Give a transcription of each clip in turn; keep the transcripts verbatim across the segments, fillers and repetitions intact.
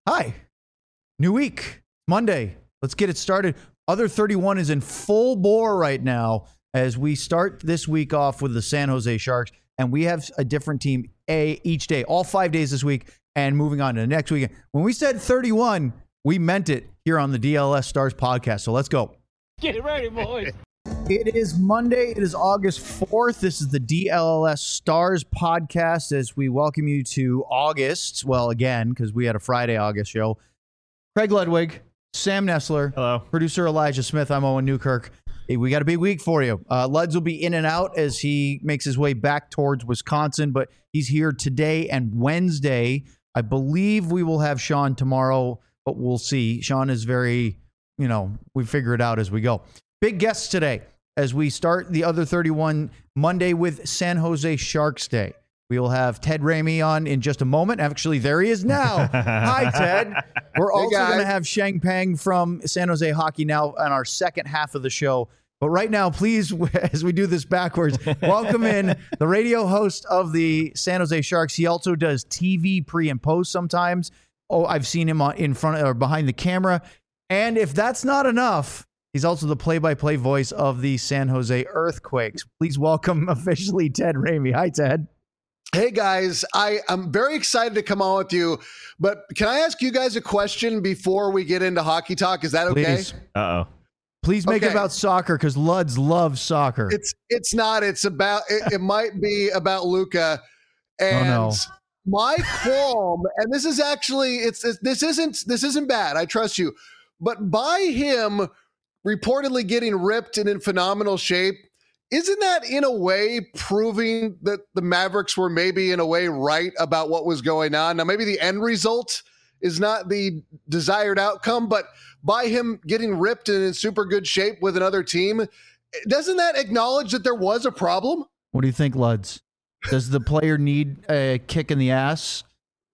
Hi. New week, Monday. Let's get it started. Other thirty-one is in full bore right now as we start this week off with the San Jose Sharks. And we have a different team a each day, all five days this week, and moving on to the next weekend. When we said thirty-one, we meant it here on the D L S Stars podcast. So let's go. Get it ready, boys. It is Monday. It is August fourth. This is the D L S Stars podcast as we welcome you to August. Well, again, because we had a Friday August show. Craig Ludwig, Sam Nessler, hello, producer Elijah Smith. I'm Owen Newkirk. Hey, we got a big week for you. Uh, Luds will be in and out as he makes his way back towards Wisconsin, but he's here today and Wednesday. I believe we will have Sean tomorrow, but we'll see. Sean is very, you know, we figure it out as we go. Big guests today as we start the other thirty-one Monday with San Jose Sharks Day. We will have Ted Ramey on in just a moment. Actually, there he is now. Hi, Ted. We're Hey, also going to guys. have Sheng Peng from San Jose Hockey now on our second half of the show. But right now, please, as we do this backwards, welcome in the radio host of the San Jose Sharks. He also does T V pre and post sometimes. Oh, I've seen him on, in front or behind the camera. And if that's not enough, he's also the play-by-play voice of the San Jose Earthquakes. Please welcome officially Ted Ramey. Hi, Ted. Hey guys, I am very excited to come on with you, but can I ask you guys a question before we get into hockey talk? Is that okay? Please. Uh-oh. Please make it Okay. about soccer because Luds loves soccer. It's it's not. It's about. It, it might be about Luka, and Oh, no. my qualm. And this is actually it's, it's this isn't this isn't bad. I trust you, but by him reportedly getting ripped and in phenomenal shape. Isn't that in a way proving that the Mavericks were maybe in a way right about what was going on? Now, maybe the end result is not the desired outcome, but by him getting ripped and in super good shape with another team, doesn't that acknowledge that there was a problem? What do you think, Luds? Does the player need a kick in the ass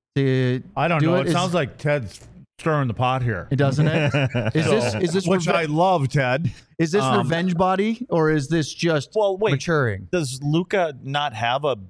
to I don't do know. it? It, Is- sounds like Ted's stirring the pot here. It doesn't it? Is this is this Which reve- I love, Ted. is this um, revenge body or is this just Well, wait. maturing? Does Luca not have a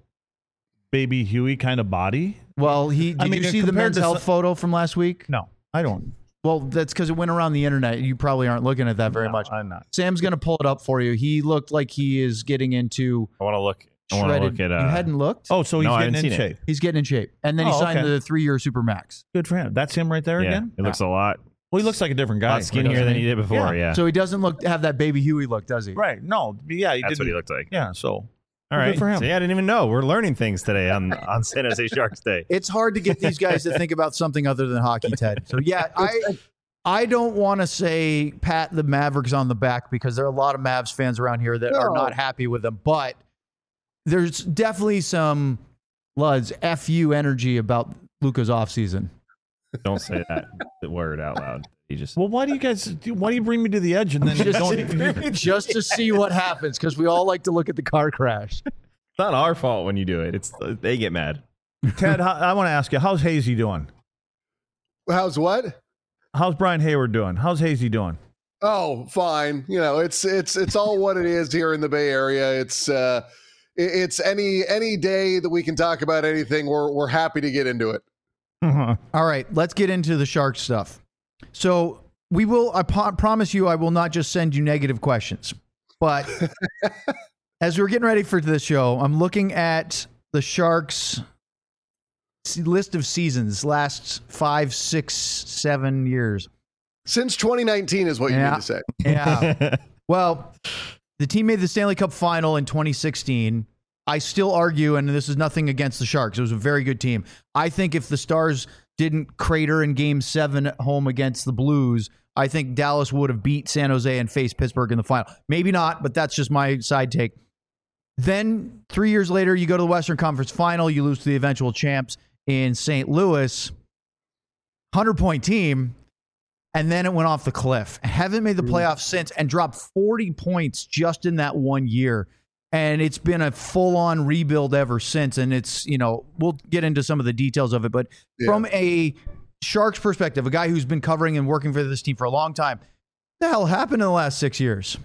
baby Huey kind of body? Well, he did I mean, you see the compared men's to health some- photo from last week? No, I don't. Well, that's because it went around the internet. You probably aren't looking at that very No, much. I'm not. Sam's going to pull it up for you. He looked like he is getting into I want to look. I want to shredded. look at. Uh, you hadn't looked? Oh, so he's No, I getting in haven't seen it. shape. He's getting in shape. And then he Oh, signed okay. the three-year super max. Good for him. That's him right there yeah, again. it looks a lot, Well, he looks like a different guy. lot skinnier doesn't than he? he did before. Yeah. Yeah, So he doesn't look have that baby Huey look, does he? Right. No. Yeah. He that's didn't. what he looked like. Yeah. So. All Good right. for him. So yeah, I didn't even know. We're learning things today on on San Jose Sharks Day. It's hard to get these guys to think about something other than hockey, Ted. So yeah, I I don't want to say pat the Mavericks on the back because there are a lot of Mavs fans around here that are No. not happy with them, but there's definitely some Luds F U energy about Luka's offseason. Don't say that word out loud. You just Well, why do you guys? Why do you bring me to the edge and then you Just, don't even? just to see what happens because we all like to look at the car crash. it's not our fault when you do it. It's they get mad. Ted, how, I want to ask you, how's Hazy doing? How's what? How's Brian Hayward doing? How's Hazy doing? Oh, fine. You know, it's it's it's all what it is here in the Bay Area. It's uh, it- it's any any day that we can talk about anything. We're we're happy to get into it. All right, let's get into the Sharks stuff. So we will, I po- promise you, I will not just send you negative questions. But as we're getting ready for this show, I'm looking at the Sharks s- list of seasons, last five, six, seven years. Since twenty nineteen is what you Yeah. need to say. Yeah. Well, the team made the Stanley Cup final in twenty sixteen. I still argue, and this is nothing against the Sharks. It was a very good team. I think if the Stars didn't crater in game seven at home against the Blues, I think Dallas would have beat San Jose and faced Pittsburgh in the final. Maybe not, but that's just my side take. Then three years later, you go to the Western Conference final. You lose to the eventual champs in Saint Louis. one hundred point team. And then it went off the cliff. Haven't made the playoffs since and dropped forty points just in that one year. And it's been a full-on rebuild ever since. And it's, you know, we'll get into some of the details of it. But Yeah. from a Sharks perspective, a guy who's been covering and working for this team for a long time, what the hell happened in the last six years?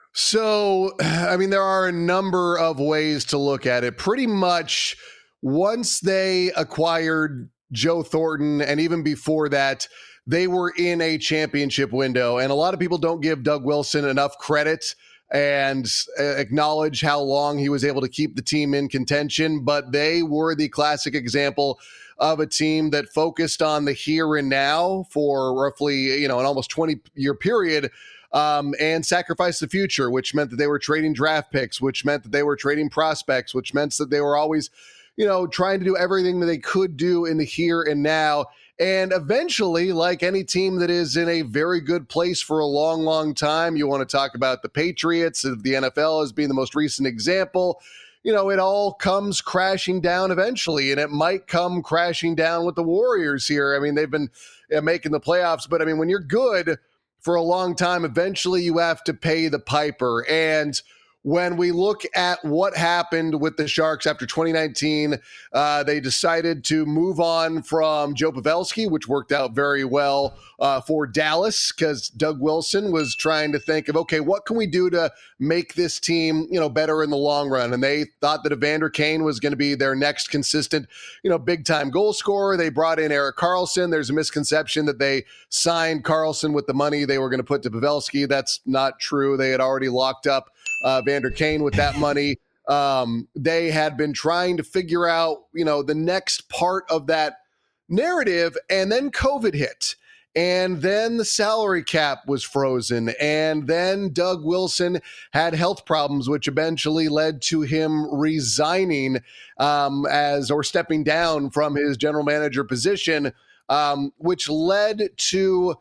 So, I mean, there are a number of ways to look at it. Pretty much once they acquired Joe Thornton, and even before that, they were in a championship window. And a lot of people don't give Doug Wilson enough credit and acknowledge how long he was able to keep the team in contention. But they were the classic example of a team that focused on the here and now for roughly, you know, an almost twenty year period, um, and sacrificed the future, which meant that they were trading draft picks, which meant that they were trading prospects, which meant that they were always, you know, trying to do everything that they could do in the here and now. And eventually, like any team that is in a very good place for a long, long time, you want to talk about the Patriots of the N F L as being the most recent example. You know, it all comes crashing down eventually, and it might come crashing down with the Warriors here. I mean, they've been uh, making the playoffs, but I mean, when you're good for a long time, eventually you have to pay the piper. And when we look at what happened with the Sharks after twenty nineteen, uh, they decided to move on from Joe Pavelski, which worked out very well uh, for Dallas because Doug Wilson was trying to think of, okay, what can we do to make this team, you know, better in the long run? And they thought that Evander Kane was going to be their next consistent, you know, big time goal scorer. They brought in Erik Karlsson. There's a misconception that they signed Karlsson with the money they were going to put to Pavelski. That's not true. They had already locked up Uh, Evander Kane with that money. Um, they had been trying to figure out, you know, the next part of that narrative, and then COVID hit. And then the salary cap was frozen. And then Doug Wilson had health problems, which eventually led to him resigning um, as or stepping down from his general manager position, um, which led to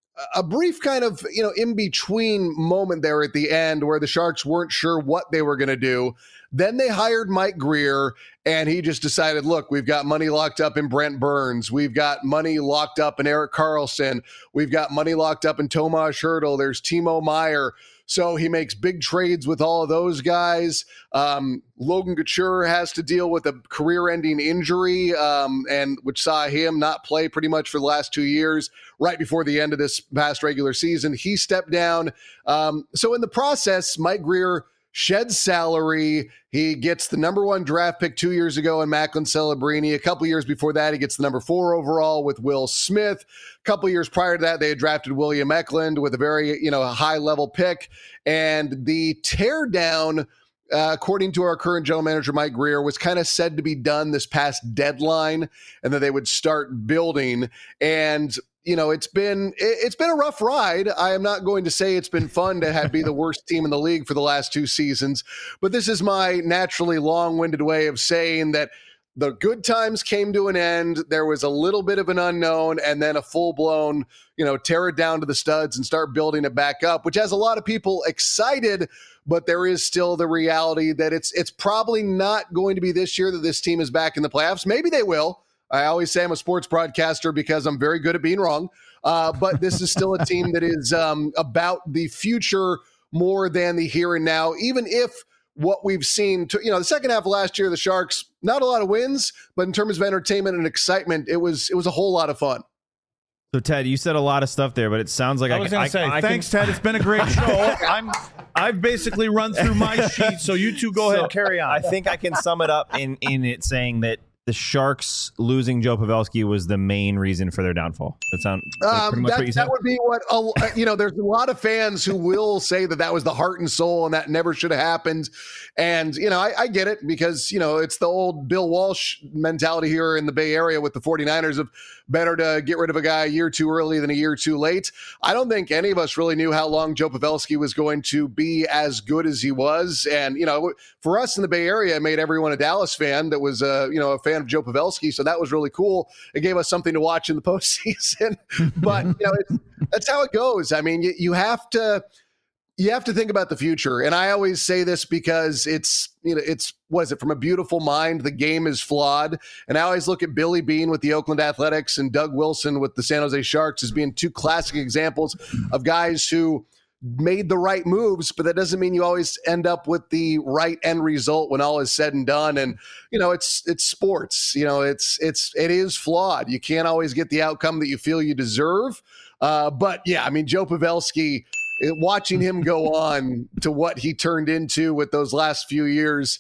a brief kind of, you know, in-between moment there at the end where the Sharks weren't sure what they were going to do. Then they hired Mike Grier, and he just decided, look, we've got money locked up in Brent Burns. We've got money locked up in Erik Karlsson. We've got money locked up in Tomas Hertl. There's Timo Meier. So he makes big trades with all of those guys. Um, Logan Couture has to deal with a career-ending injury, um, and which saw him not play pretty much for the last two years. Right before the end of this past regular season, he stepped down. Um, so in the process, Mike Grier sheds salary. He gets the number one draft pick two years ago in Macklin Celebrini. A couple years before that, he gets the number four overall with Will Smith. A couple years prior to that, they had drafted William Eklund with a very, you know, high level pick. And the teardown, uh, according to our current general manager, Mike Grier, was kind of said to be done this past deadline, and that they would start building. And you know, it's been it's been a rough ride. I am not going to say it's been fun to have be the worst team in the league for the last two seasons, but this is my naturally long-winded way of saying that the good times came to an end. There was a little bit of an unknown, and then a full-blown, you know, tear it down to the studs and start building it back up, which has a lot of people excited. But there is still the reality that it's it's probably not going to be this year that this team is back in the playoffs. Maybe they will. I always say I'm a sports broadcaster because I'm very good at being wrong. Uh, but this is still a team that is um, about the future more than the here and now, even if what we've seen, to, you know, the second half of last year, the Sharks, not a lot of wins, but in terms of entertainment and excitement, it was it was a whole lot of fun. So, Ted, you said a lot of stuff there, but it sounds like I, I was can, going to say, I, I thanks, can, Ted. It's been a great show. I'm, I've basically run through my sheet, so you two go So, ahead, carry on. I think I can sum it up in, in it saying that the Sharks losing Joe Pavelski was the main reason for their downfall. That sound like pretty Um, much that, what you said? that would be what, uh, you know, there's a lot of fans who will say that that was the heart and soul and that never should have happened. And, you know, I, I get it because, you know, it's the old Bill Walsh mentality here in the Bay Area with the 49ers of better to get rid of a guy a year too early than a year too late. I don't think any of us really knew how long Joe Pavelski was going to be as good as he was. And, you know, for us in the Bay Area, it made everyone a Dallas fan that was, uh, you know, a fan of Joe Pavelski. So that was really cool. It gave us something to watch in the postseason. But, you know, it's, that's how it goes. I mean, you, you have to, you have to think about the future. And I always say this because it's, you know, it's, was it from a beautiful mind? The game is flawed. And I always look at Billy Beane with the Oakland Athletics and Doug Wilson with the San Jose Sharks as being two classic examples of guys who made the right moves, but that doesn't mean you always end up with the right end result when all is said and done. And, you know, it's, it's sports, you know, it's, it's, it is flawed. You can't always get the outcome that you feel you deserve. Uh, but yeah, I mean, Joe Pavelski, watching him go on to what he turned into with those last few years,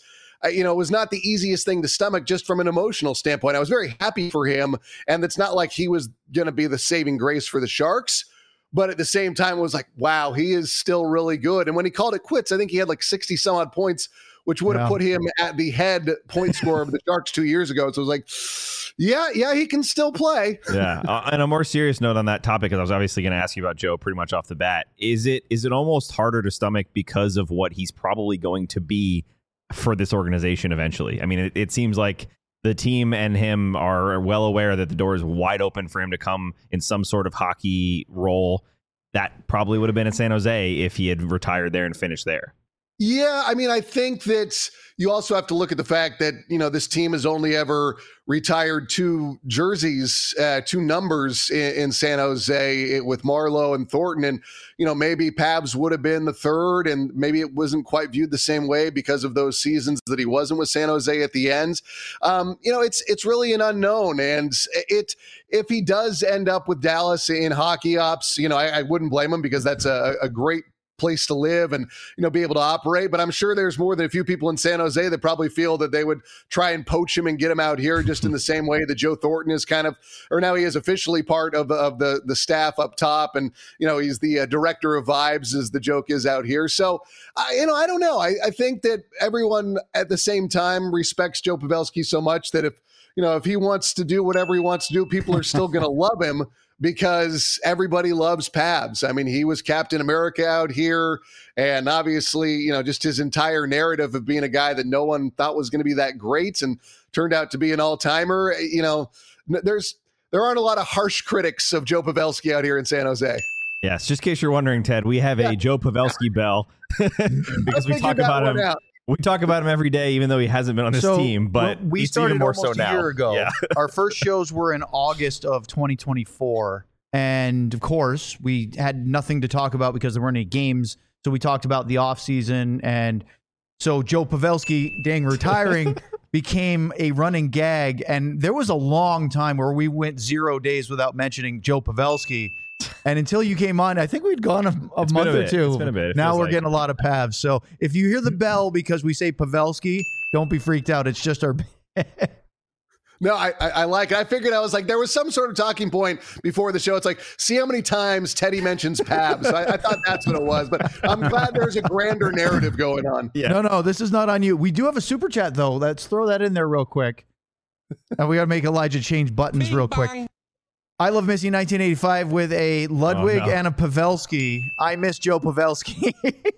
uh, you know, it was not the easiest thing to stomach just from an emotional standpoint. I was very happy for him, and it's not like he was going to be the saving grace for the Sharks. But at the same time, it was like, wow, he is still really good. And when he called it quits, I think he had like sixty some odd points, which would have Yeah. put him at the head point scorer of the Sharks two years ago. So it was like, yeah, yeah, he can still play. Yeah. Uh, on a more serious note on that topic, because I was obviously going to ask you about Joe pretty much off the bat, is it is it almost harder to stomach because of what he's probably going to be for this organization eventually? I mean, it, it seems like the team and him are well aware that the door is wide open for him to come in some sort of hockey role. That probably would have been in San Jose if he had retired there and finished there. Yeah, I mean, I think that you also have to look at the fact that, you know, this team has only ever retired two jerseys, uh, two numbers in, in San Jose with Marleau and Thornton. And, you know, maybe Pabs would have been the third, and maybe it wasn't quite viewed the same way because of those seasons that he wasn't with San Jose at the end. Um, you know, it's it's really an unknown. And it if he does end up with Dallas in hockey ops, you know, I, I wouldn't blame him, because that's a, a great place to live and, you know, be able to operate. But I'm sure there's more than a few people in San Jose that probably feel that they would try and poach him and get him out here, just in the same way that Joe Thornton is kind of, or now he is officially part of, of the, the staff up top. And, you know, he's the uh, director of vibes, as the joke is out here. So, I, you know, I don't know. I, I think that everyone at the same time respects Joe Pavelski so much that if, you know, if he wants to do whatever he wants to do, people are still going to love him, because everybody loves Pabs. I mean, he was Captain America out here, and obviously, you know, just his entire narrative of being a guy that no one thought was going to be that great and turned out to be an all-timer. You know, there's there aren't a lot of harsh critics of Joe Pavelski out here in San Jose. Yes, just in case you're wondering, Ted, we have a Yeah. Joe Pavelski bell because we I talk figured that about one him. out. We talk about him every day, even though he hasn't been on this So, team. But well, we it's started even more almost so a now. year ago. Yeah. Our first shows were in August of twenty twenty-four. And of course, we had nothing to talk about because there weren't any games. So we talked about the offseason. And so Joe Pavelski, dang, retiring became a running gag. And there was a long time where we went zero days without mentioning Joe Pavelski. And until you came on, I think we'd gone a, a It's been month a or bit. two. It's been a bit. It Now feels we're like. getting a lot of Pavs. So if you hear the bell because we say Pavelski, don't be freaked out. It's just our. No, I, I, I like it. I figured I was like, there was some sort of talking point before the show. It's like, see how many times Teddy mentions Pabs. So I, I thought that's what it was, but I'm glad there's a grander narrative going on. Yeah. No, no, this is not on you. We do have a super chat though. Let's throw that in there real quick. And we got to make Elijah change buttons real quick. I love Missy nineteen eighty-five with a Ludwig Oh, no. and a Pavelski. I miss Joe Pavelski.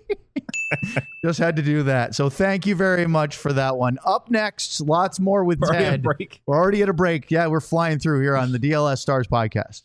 Just had to do that. So thank you very much for that one. Up next, lots more with We're already on Ted. break. We're already at a break. Yeah, we're flying through here on the D L S Stars podcast.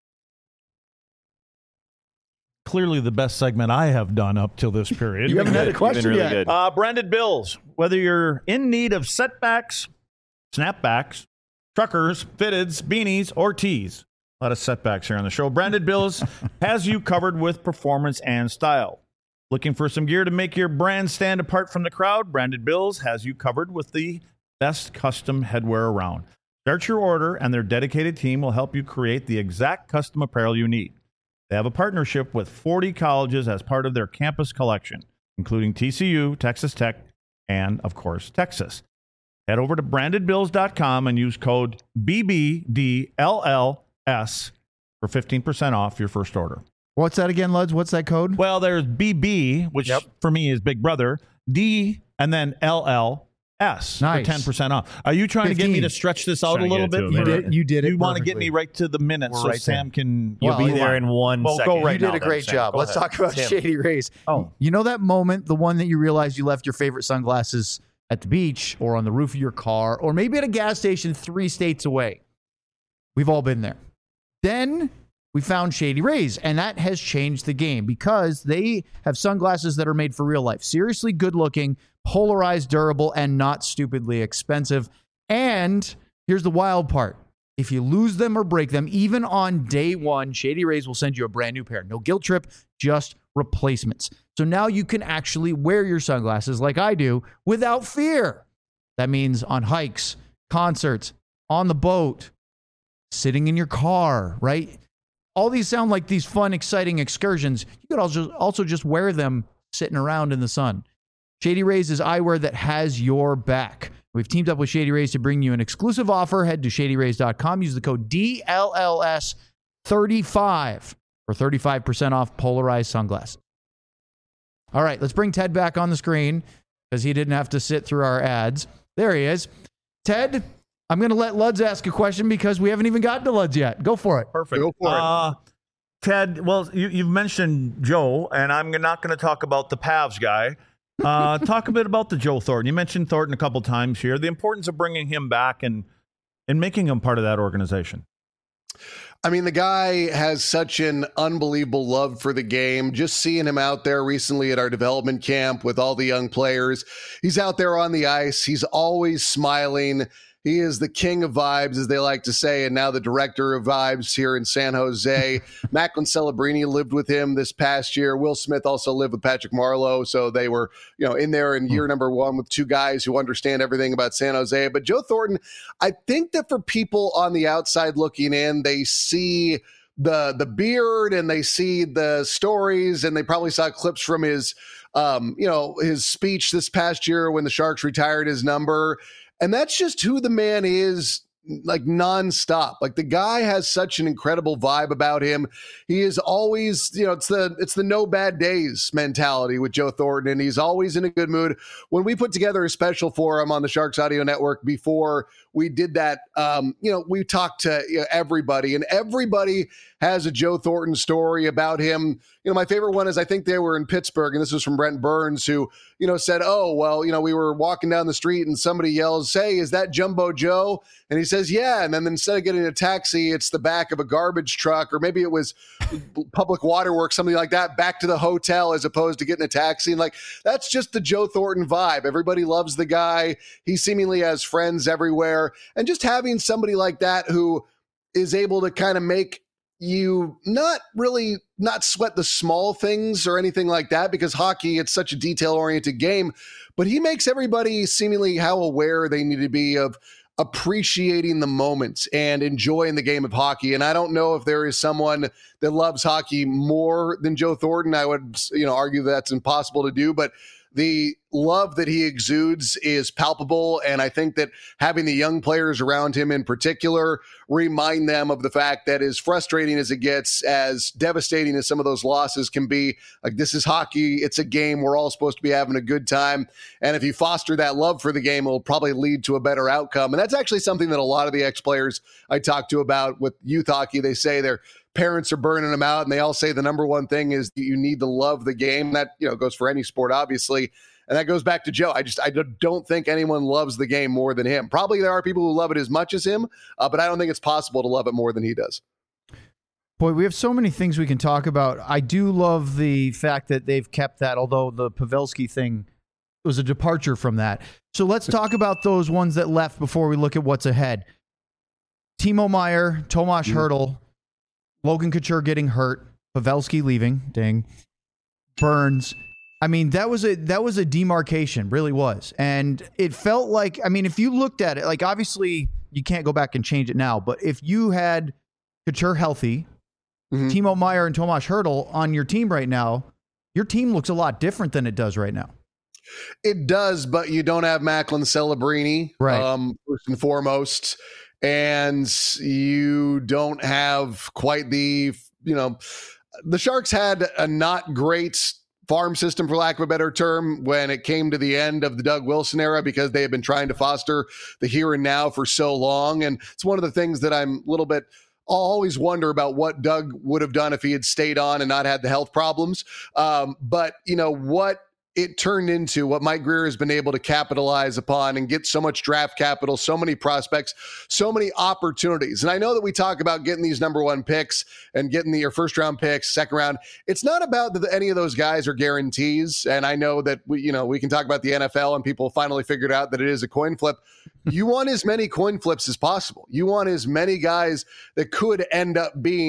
Clearly the best segment I have done up till this period. You haven't had a You've been question really yet. good. Uh, branded bills. Whether you're in need of setbacks, snapbacks, truckers, fitteds, beanies, or tees. A lot of setbacks here on the show. Branded Bills has you covered with performance and style. Looking for some gear to make your brand stand apart from the crowd? Branded Bills has you covered with the best custom headwear around. Start your order, and their dedicated team will help you create the exact custom apparel you need. They have a partnership with forty colleges as part of their campus collection, including T C U, Texas Tech, and, of course, Texas. Head over to branded bills dot com and use code B B D L L S for fifteen percent off your first order. What's that again, Luds? What's that code? Well, there's B B, which Yep. for me is Big Brother, D, and then L L S Nice. for ten percent off. Are you trying to get me fifteen. to stretch this out Trying a to little get it bit? to You him, did, you did it. You want to get perfectly. me right to the minute We're so right Sam can... You'll Well, be hold there on. in one Well, go second. right You did now a great then, Sam. job. Go Let's ahead. talk about Tim. Shady Rays. Oh. You know that moment, the one that you realized you left your favorite sunglasses at the beach or on the roof of your car or maybe at a gas station three states away? We've all been there. Then we found Shady Rays, and that has changed the game because they have sunglasses that are made for real life. Seriously good looking, polarized, durable, and not stupidly expensive. And here's the wild part. If you lose them or break them, even on day one, Shady Rays will send you a brand new pair. No guilt trip, just replacements. So now you can actually wear your sunglasses like I do without fear. That means on hikes, concerts, on the boat, sitting in your car, right? All these sound like these fun, exciting excursions. You could also, also just wear them sitting around in the sun. Shady Rays is eyewear that has your back. We've teamed up with Shady Rays to bring you an exclusive offer. Head to shady rays dot com. Use the code D L L S thirty-five for thirty-five percent off polarized sunglasses. All right, let's bring Ted back on the screen because he didn't have to sit through our ads. There he is. Ted, I'm going to let Luds ask a question because we haven't even gotten to Luds yet. Go for it. Perfect. Go for it. Uh, Ted, well, you, you've mentioned Joe, and I'm not going to talk about the Pavs guy. Uh, talk a bit about the Joe Thornton. You mentioned Thornton a couple times here. The importance of bringing him back and and making him part of that organization. I mean, the guy has such an unbelievable love for the game. Just seeing him out there recently at our development camp with all the young players, he's out there on the ice. He's always smiling. He is the king of vibes, as they like to say, and now the director of vibes here in San Jose. Macklin Celebrini lived with him this past year. Will Smith also lived with Patrick Marleau, so they were, you know, in there in year number one with two guys who understand everything about San Jose. But Joe Thornton, I think that for people on the outside looking in, they see the the beard and they see the stories, and they probably saw clips from his, um, you know, his speech this past year when the Sharks retired his number. And that's just who the man is, like nonstop. Like the guy has such an incredible vibe about him. He is always, you know, it's the it's the no bad days mentality with Joe Thornton, and he's always in a good mood. When we put together a special for him on the Sharks Audio Network before we did that, um, you know, we talked to you know, everybody, and everybody has a Joe Thornton story about him. You know, my favorite one is I think they were in Pittsburgh, and this was from Brent Burns, who, you know, said, oh, well, you know, we were walking down the street and somebody yells, hey, is that Jumbo Joe? And he says, yeah. And then instead of getting a taxi, it's the back of a garbage truck, or maybe it was Public Waterworks, something like that, back to the hotel as opposed to getting a taxi. And like, that's just the Joe Thornton vibe. Everybody loves the guy. He seemingly has friends everywhere. And just having somebody like that who is able to kind of make you not really not sweat the small things or anything like that, because hockey, it's such a detail-oriented game, but he makes everybody seemingly how aware they need to be of appreciating the moments and enjoying the game of hockey. And I don't know if there is someone that loves hockey more than Joe Thornton. I would, you know, argue that's impossible to do, but the love that he exudes is palpable. And I think that having the young players around him in particular remind them of the fact that as frustrating as it gets, as devastating as some of those losses can be, like, this is hockey. It's a game. We're all supposed to be having a good time. And if you foster that love for the game, it'll probably lead to a better outcome. And that's actually something that a lot of the ex-players I talk to about with youth hockey, they say they're parents are burning them out, and they all say the number one thing is that you need to love the game. That, you know, goes for any sport, obviously. And that goes back to Joe. I just, I don't think anyone loves the game more than him. Probably there are people who love it as much as him, uh, but I don't think it's possible to love it more than he does. Boy, we have so many things we can talk about. I do love the fact that they've kept that, although the Pavelski thing was a departure from that. So let's talk about those ones that left before we look at what's ahead. Timo Meier, Tomas Mm-hmm. Hertl, Logan Couture getting hurt, Pavelski leaving, ding, Burns. I mean, that was a that was a demarcation, really was. And it felt like, I mean, if you looked at it, like, obviously you can't go back and change it now, but if you had Couture healthy, Mm-hmm. Timo Meier and Tomas Hertl on your team right now, your team looks a lot different than it does right now. It does, but you don't have Macklin Celebrini, Right. um, first and foremost. And you don't have quite the, you know, the Sharks had a not great farm system, for lack of a better term, when it came to the end of the Doug Wilson era, because they had been trying to foster the here and now for so long. And it's one of the things that I'm a little bit, I'll always wonder about what Doug would have done if he had stayed on and not had the health problems. Um, but, you know, what it turned into, what Mike Grier has been able to capitalize upon and get so much draft capital, so many prospects, so many opportunities. And I know that we talk about getting these number one picks and getting the, your first round picks, second round. It's not about that any of those guys are guarantees. And I know that we, you know, we can talk about the N F L and people finally figured out that it is a coin flip. You want as many coin flips as possible. You want as many guys that could end up being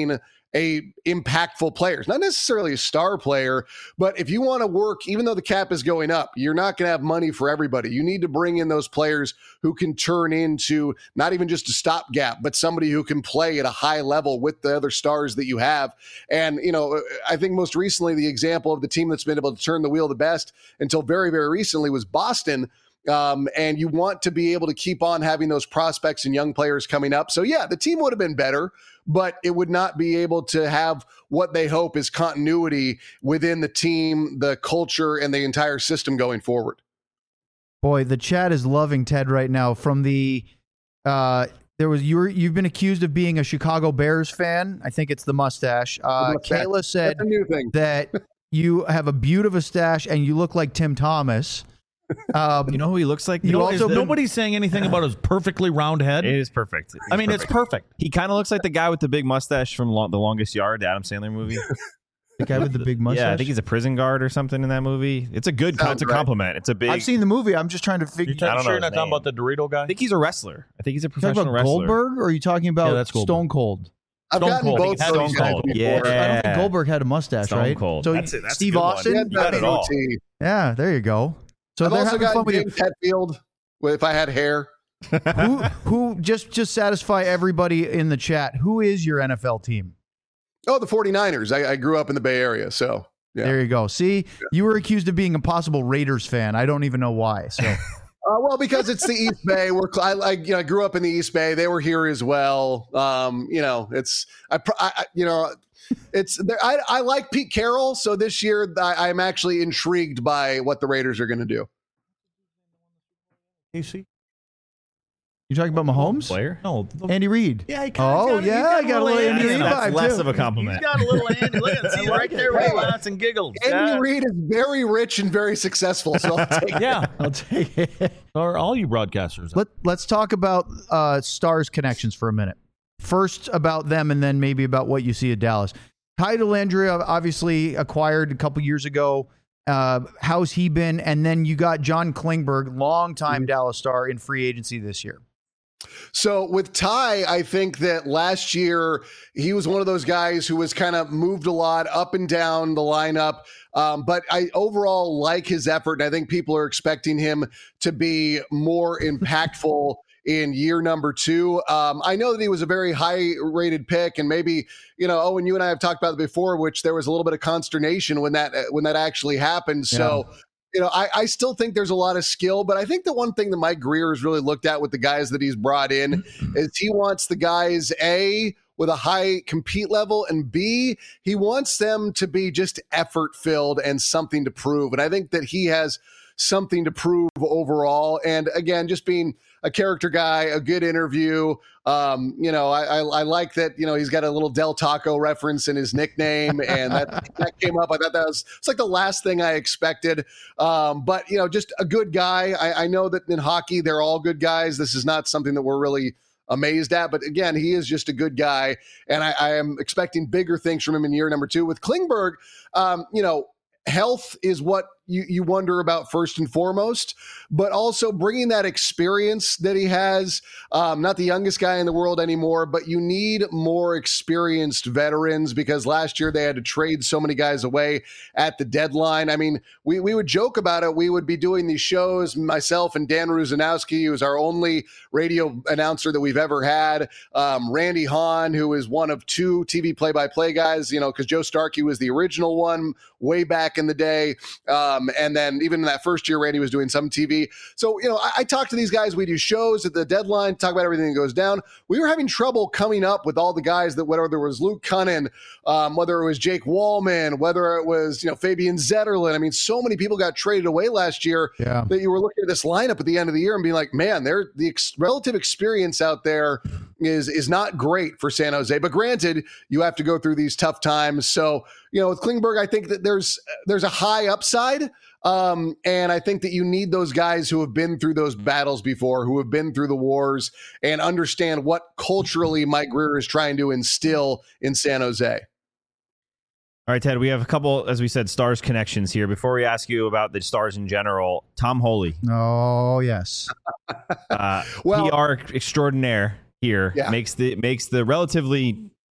a impactful player. Not necessarily a star player, but if you want to work, even though the cap is going up, you're not going to have money for everybody. You need to bring in those players who can turn into not even just a stopgap, but somebody who can play at a high level with the other stars that you have. And, you know, I think most recently the example of the team that's been able to turn the wheel the best until very, very recently was Boston. Um, and you want to be able to keep on having those prospects and young players coming up. So, yeah, the team would have been better, but it would not be able to have what they hope is continuity within the team, the culture, and the entire system going forward. Boy, the chat is loving Ted right now. From the uh, there was you were, you've been accused of being a Chicago Bears fan. I think it's the mustache. Uh, Kayla said That's a new thing. that you have a beaut of a stash and you look like Tim Thomas. Um, You know who he looks like? You though? also- Is the- Nobody's saying anything about his perfectly round head. It is perfect. I mean, it's perfect. He kind of looks like the guy with the big mustache from Lo- The Longest Yard, the Adam Sandler movie. the guy with the big mustache. Yeah, I think he's a prison guard or something in that movie. It's a good, Sounds it's a right. compliment. It's a big. I've seen the movie. I'm just trying to figure. You're I don't sure know you're not his talking name. about the Dorito guy? I think he's a wrestler. I think he's a You talking professional about wrestler. Goldberg, or are you talking about Yeah, that's Goldberg. Stone Cold? I've Stone gotten Cold. both Stone of those guys Cold. before. Yeah. I don't think Goldberg had a mustache, Stone right? Cold. So That's it. That's a Steve good one. Austin. He had You got that it all. goatee. Yeah, there you go. So I've they're also having fun got with you. James Hetfield if I had hair. who, who just just satisfy everybody in the chat? Who is your N F L team? Oh, the 49ers. I, I grew up in the Bay Area, so yeah. There you go. See, you were accused of being a possible Raiders fan. I don't even know why. So Uh, well, because it's the East Bay. We're cl- I, I, you know, I grew up in the East Bay. They were here as well. Um, you know, it's I, pr- I I- you know, it's there. I, I like Pete Carroll. So this year, I, I'm actually intrigued by what the Raiders are going to do. You see? you're talking about Mahomes, Player? No. the- Andy Reid. yeah, he Oh kinda got- he's yeah, I got a little Andy That's, Reid that's vibe less too. of a compliment. He's got a little Andy. Look at it. See I like right it. there where he Hey. laughs and giggles. Andy Yeah. Reid is very rich and very successful. So I'll take it. Yeah. I'll take it. Or all you broadcasters. Let, let's talk about uh, Stars connections for a minute. First about them, and then maybe about what you see at Dallas. Ty Dellandrea, obviously acquired a couple years ago. Uh, how's he been? And then you got John Klingberg, longtime Dallas Star, in free agency this year. So with Ty, I think that last year he was one of those guys who was kind of moved a lot up and down the lineup. Um, but I overall like his effort, and I think people are expecting him to be more impactful in year number two. Um, I know that he was a very high rated pick, and maybe, you know, Owen, you and I have talked about it before, which there was a little bit of consternation when that when that actually happened. So. Yeah. You know, I, I still think there's a lot of skill, but I think the one thing that Mike Greer has really looked at with the guys that he's brought in is he wants the guys, A, with a high compete level, and B, he wants them to be just effort filled and something to prove. And I think that he has something to prove overall. And again, just being a character guy, a good interview. Um, you know, I, I, I like that, you know, he's got a little Del Taco reference in his nickname, and that, that came up. I thought that was, it's like the last thing I expected. Um, but, you know, just a good guy. I, I know that in hockey, they're all good guys. This is not something that we're really amazed at, but again, he is just a good guy. And I, I am expecting bigger things from him in year number two. With Klingberg, um, you know, health is what you, you wonder about first and foremost, but also bringing that experience that he has. Um, not the youngest guy in the world anymore, but you need more experienced veterans because last year they had to trade so many guys away at the deadline. I mean, we, we would joke about it. We would be doing these shows, myself and Dan Ruzanowski, who is our only radio announcer that we've ever had. Um, Randy Hahn, who is one of two T V play-by-play guys, you know, because Joe Starkey was the original one way back in the day. Um, and then even in that first year, Randy was doing some T V. So, you know, I, I talk to these guys. We do shows at the deadline, talk about everything that goes down. We were having trouble coming up with all the guys that, whether there was Luke Cunnin, um, whether it was Jake Wallman, whether it was, you know, Fabian Zetterlund. I mean, so many people got traded away last year Yeah. that you were looking at this lineup at the end of the year and being like, man, they're, the ex- relative experience out there is is not great for San Jose. But granted, you have to go through these tough times. So, you know, with Klingberg, I think that there's there's a high upside. Um, and I think that you need those guys who have been through those battles before, who have been through the wars and understand what culturally Mike Greer is trying to instill in San Jose. All right, Ted, we have a couple, as we said, Stars connections here. Before we ask you about the Stars in general, Tom Holy, Oh, yes. uh, Well- P R extraordinaire here, Yeah. makes the makes the relatively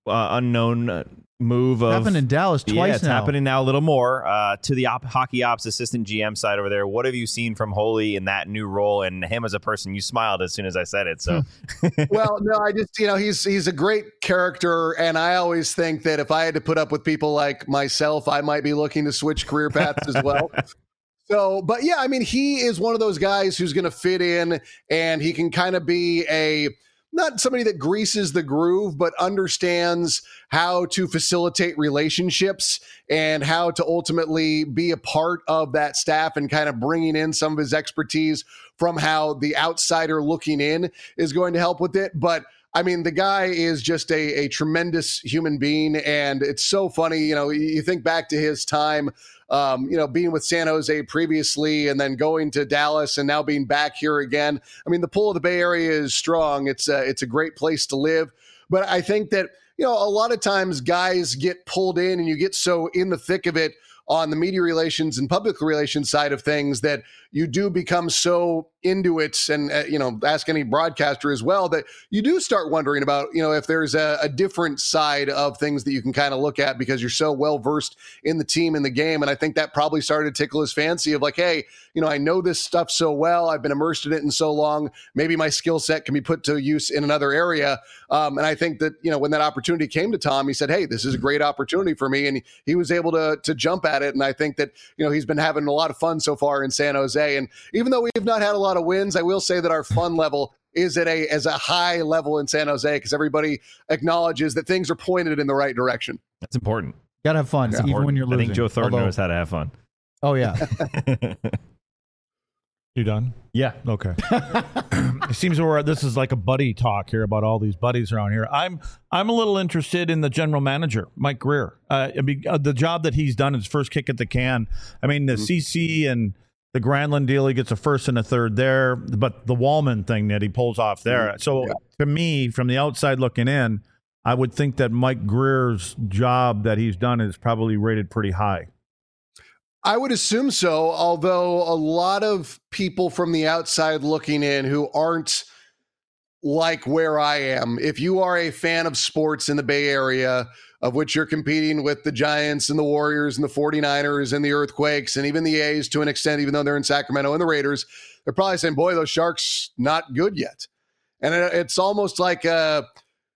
uh, unknown uh, move of Happened in Dallas twice yeah, it's now. happening now a little more. Uh, to the op- hockey ops assistant G M side over there, what have you seen from Holy in that new role and him as a person? You smiled as soon as I said it. So, Well, no, I just, you know, he's he's a great character, and I always think that if I had to put up with people like myself, I might be looking to switch career paths as well. So, but yeah, I mean, he is one of those guys who's going to fit in, and he can kind of be a not somebody that greases the groove, but understands how to facilitate relationships and how to ultimately be a part of that staff and kind of bringing in some of his expertise from how the outsider looking in is going to help with it. But I mean, the guy is just a, a tremendous human being, and it's so funny. You know, you think back to his time, um, you know, being with San Jose previously and then going to Dallas and now being back here again. I mean, the pull of the Bay Area is strong. It's a, it's a great place to live. But I think that, you know, a lot of times guys get pulled in and you get so in the thick of it on the media relations and public relations side of things that you do become so into it, and uh, you know, ask any broadcaster as well, that you do start wondering about, you know, if there's a, a different side of things that you can kind of look at because you're so well versed in the team and the game. And I think that probably started to tickle his fancy of like, hey, you know, I know this stuff so well, I've been immersed in it in so long, maybe my skill set can be put to use in another area. Um, and I think that, you know, when that opportunity came to Tom, he said, hey, this is a great opportunity for me, and he, he was able to to jump at it. And I think that, you know, he's been having a lot of fun so far in San Jose. And even though we've not had a lot of wins, I will say that our fun level is at a as a high level in San Jose because everybody acknowledges that things are pointed in the right direction. that's important. Gotta have fun, That's even important. when you're I losing. think Joe Thornton Although- knows how to have fun. Oh yeah. You done? Yeah. Okay. It seems we're this is like a buddy talk here about all these buddies around here. I'm I'm a little interested in the general manager, Mike Greer. Uh, I mean, uh, the job that he's done, his first kick at the can. I mean, the mm-hmm. C C and the Granlund deal, he gets a first and a third there, but the Wallman thing that he pulls off there. Mm-hmm. So yeah. To me, from the outside looking in, I would think that Mike Greer's job that he's done is probably rated pretty high. I would assume so, although a lot of people from the outside looking in who aren't like where I am, if you are a fan of sports in the Bay Area, of which you're competing with the Giants and the Warriors and the 49ers and the Earthquakes and even the A's to an extent, even though they're in Sacramento, and the Raiders, they're probably saying, boy, those Sharks not good yet. And it's almost like a...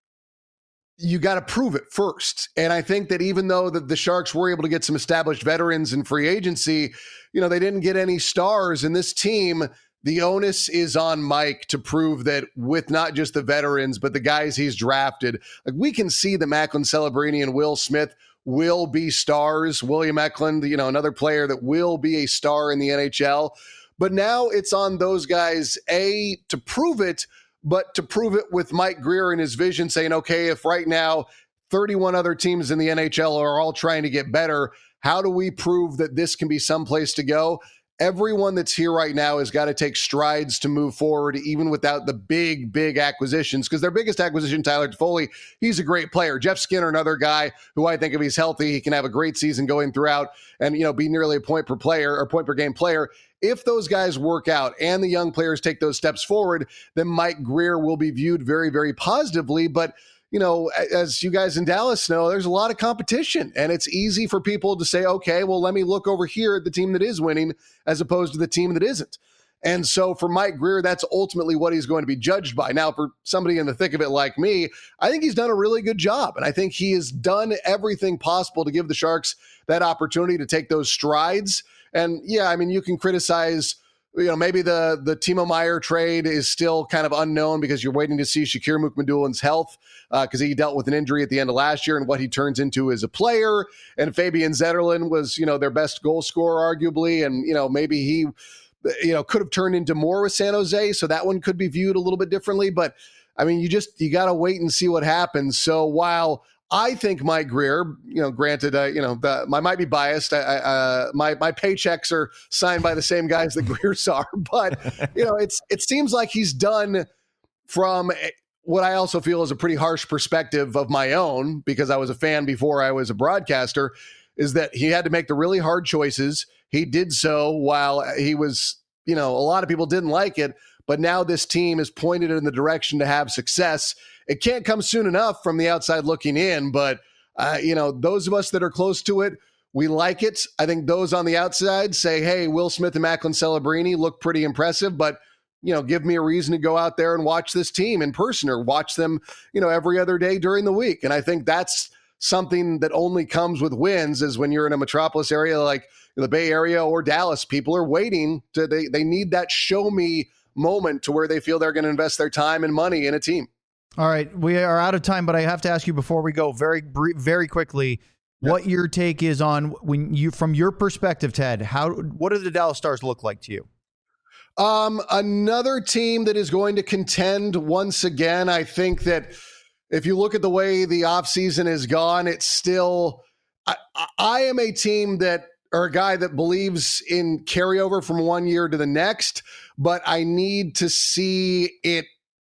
you got to prove it first. And I think that even though the, the Sharks were able to get some established veterans in free agency, you know, they didn't get any stars. And this team, the onus is on Mike to prove that with not just the veterans, but the guys he's drafted, like we can see that Macklin Celebrini and Will Smith will be stars. William Eklund, you know, another player that will be a star in the N H L. But now it's on those guys, A, to prove it, but to prove it with Mike Greer and his vision saying, okay, if right now thirty-one other teams in the N H L are all trying to get better, how do we prove that this can be someplace to go? Everyone that's here right now has got to take strides to move forward, even without the big, big acquisitions, because their biggest acquisition, Tyler Toffoli, he's a great player. Jeff Skinner, another guy who I think if he's healthy, he can have a great season going throughout and, you know, be nearly a point per player or point per game player. If those guys work out and the young players take those steps forward, then Mike Greer will be viewed very, very positively. But, you know, as you guys in Dallas know, there's a lot of competition, and it's easy for people to say, okay, well, let me look over here at the team that is winning as opposed to the team that isn't. And so for Mike Greer, that's ultimately what he's going to be judged by. Now, for somebody in the thick of it like me, I think he's done a really good job. And I think he has done everything possible to give the Sharks that opportunity to take those strides. And yeah, I mean, you can criticize, you know, maybe the the Timo Meier trade is still kind of unknown because you're waiting to see Shakir Mukhamadulin's health because uh, he dealt with an injury at the end of last year and what he turns into as a player. And Fabian Zetterlund was, you know, their best goal scorer, arguably. And, you know, maybe he, you know, could have turned into more with San Jose. So that one could be viewed a little bit differently. But I mean, you just, you got to wait and see what happens. So while I think Mike Greer, you know, granted, uh, you know, the, I might be biased. I, uh, my my paychecks are signed by the same guys that Greer's are, but you know, it's it seems like he's done from what I also feel is a pretty harsh perspective of my own, because I was a fan before I was a broadcaster, is that he had to make the really hard choices. He did so while he was, you know, a lot of people didn't like it, but now this team is pointed in the direction to have success. It can't come soon enough from the outside looking in, but uh, you know, those of us that are close to it, we like it. I think those on the outside say, hey, Will Smith and Macklin Celebrini look pretty impressive, but, you know, give me a reason to go out there and watch this team in person or watch them, you know, every other day during the week. And I think that's something that only comes with wins, is when you're in a metropolis area like the Bay Area or Dallas, people are waiting to, they, they need that show me moment to where they feel they're going to invest their time and money in a team. All right. We are out of time, but I have to ask you before we go very, very quickly, yep, what your take is on, when you, from your perspective, Ted, how, what do the Dallas Stars look like to you? Um, another team that is going to contend once again. I think that if you look at the way the offseason has gone, it's still, I, I am a team that, or a guy that believes in carryover from one year to the next, but I need to see it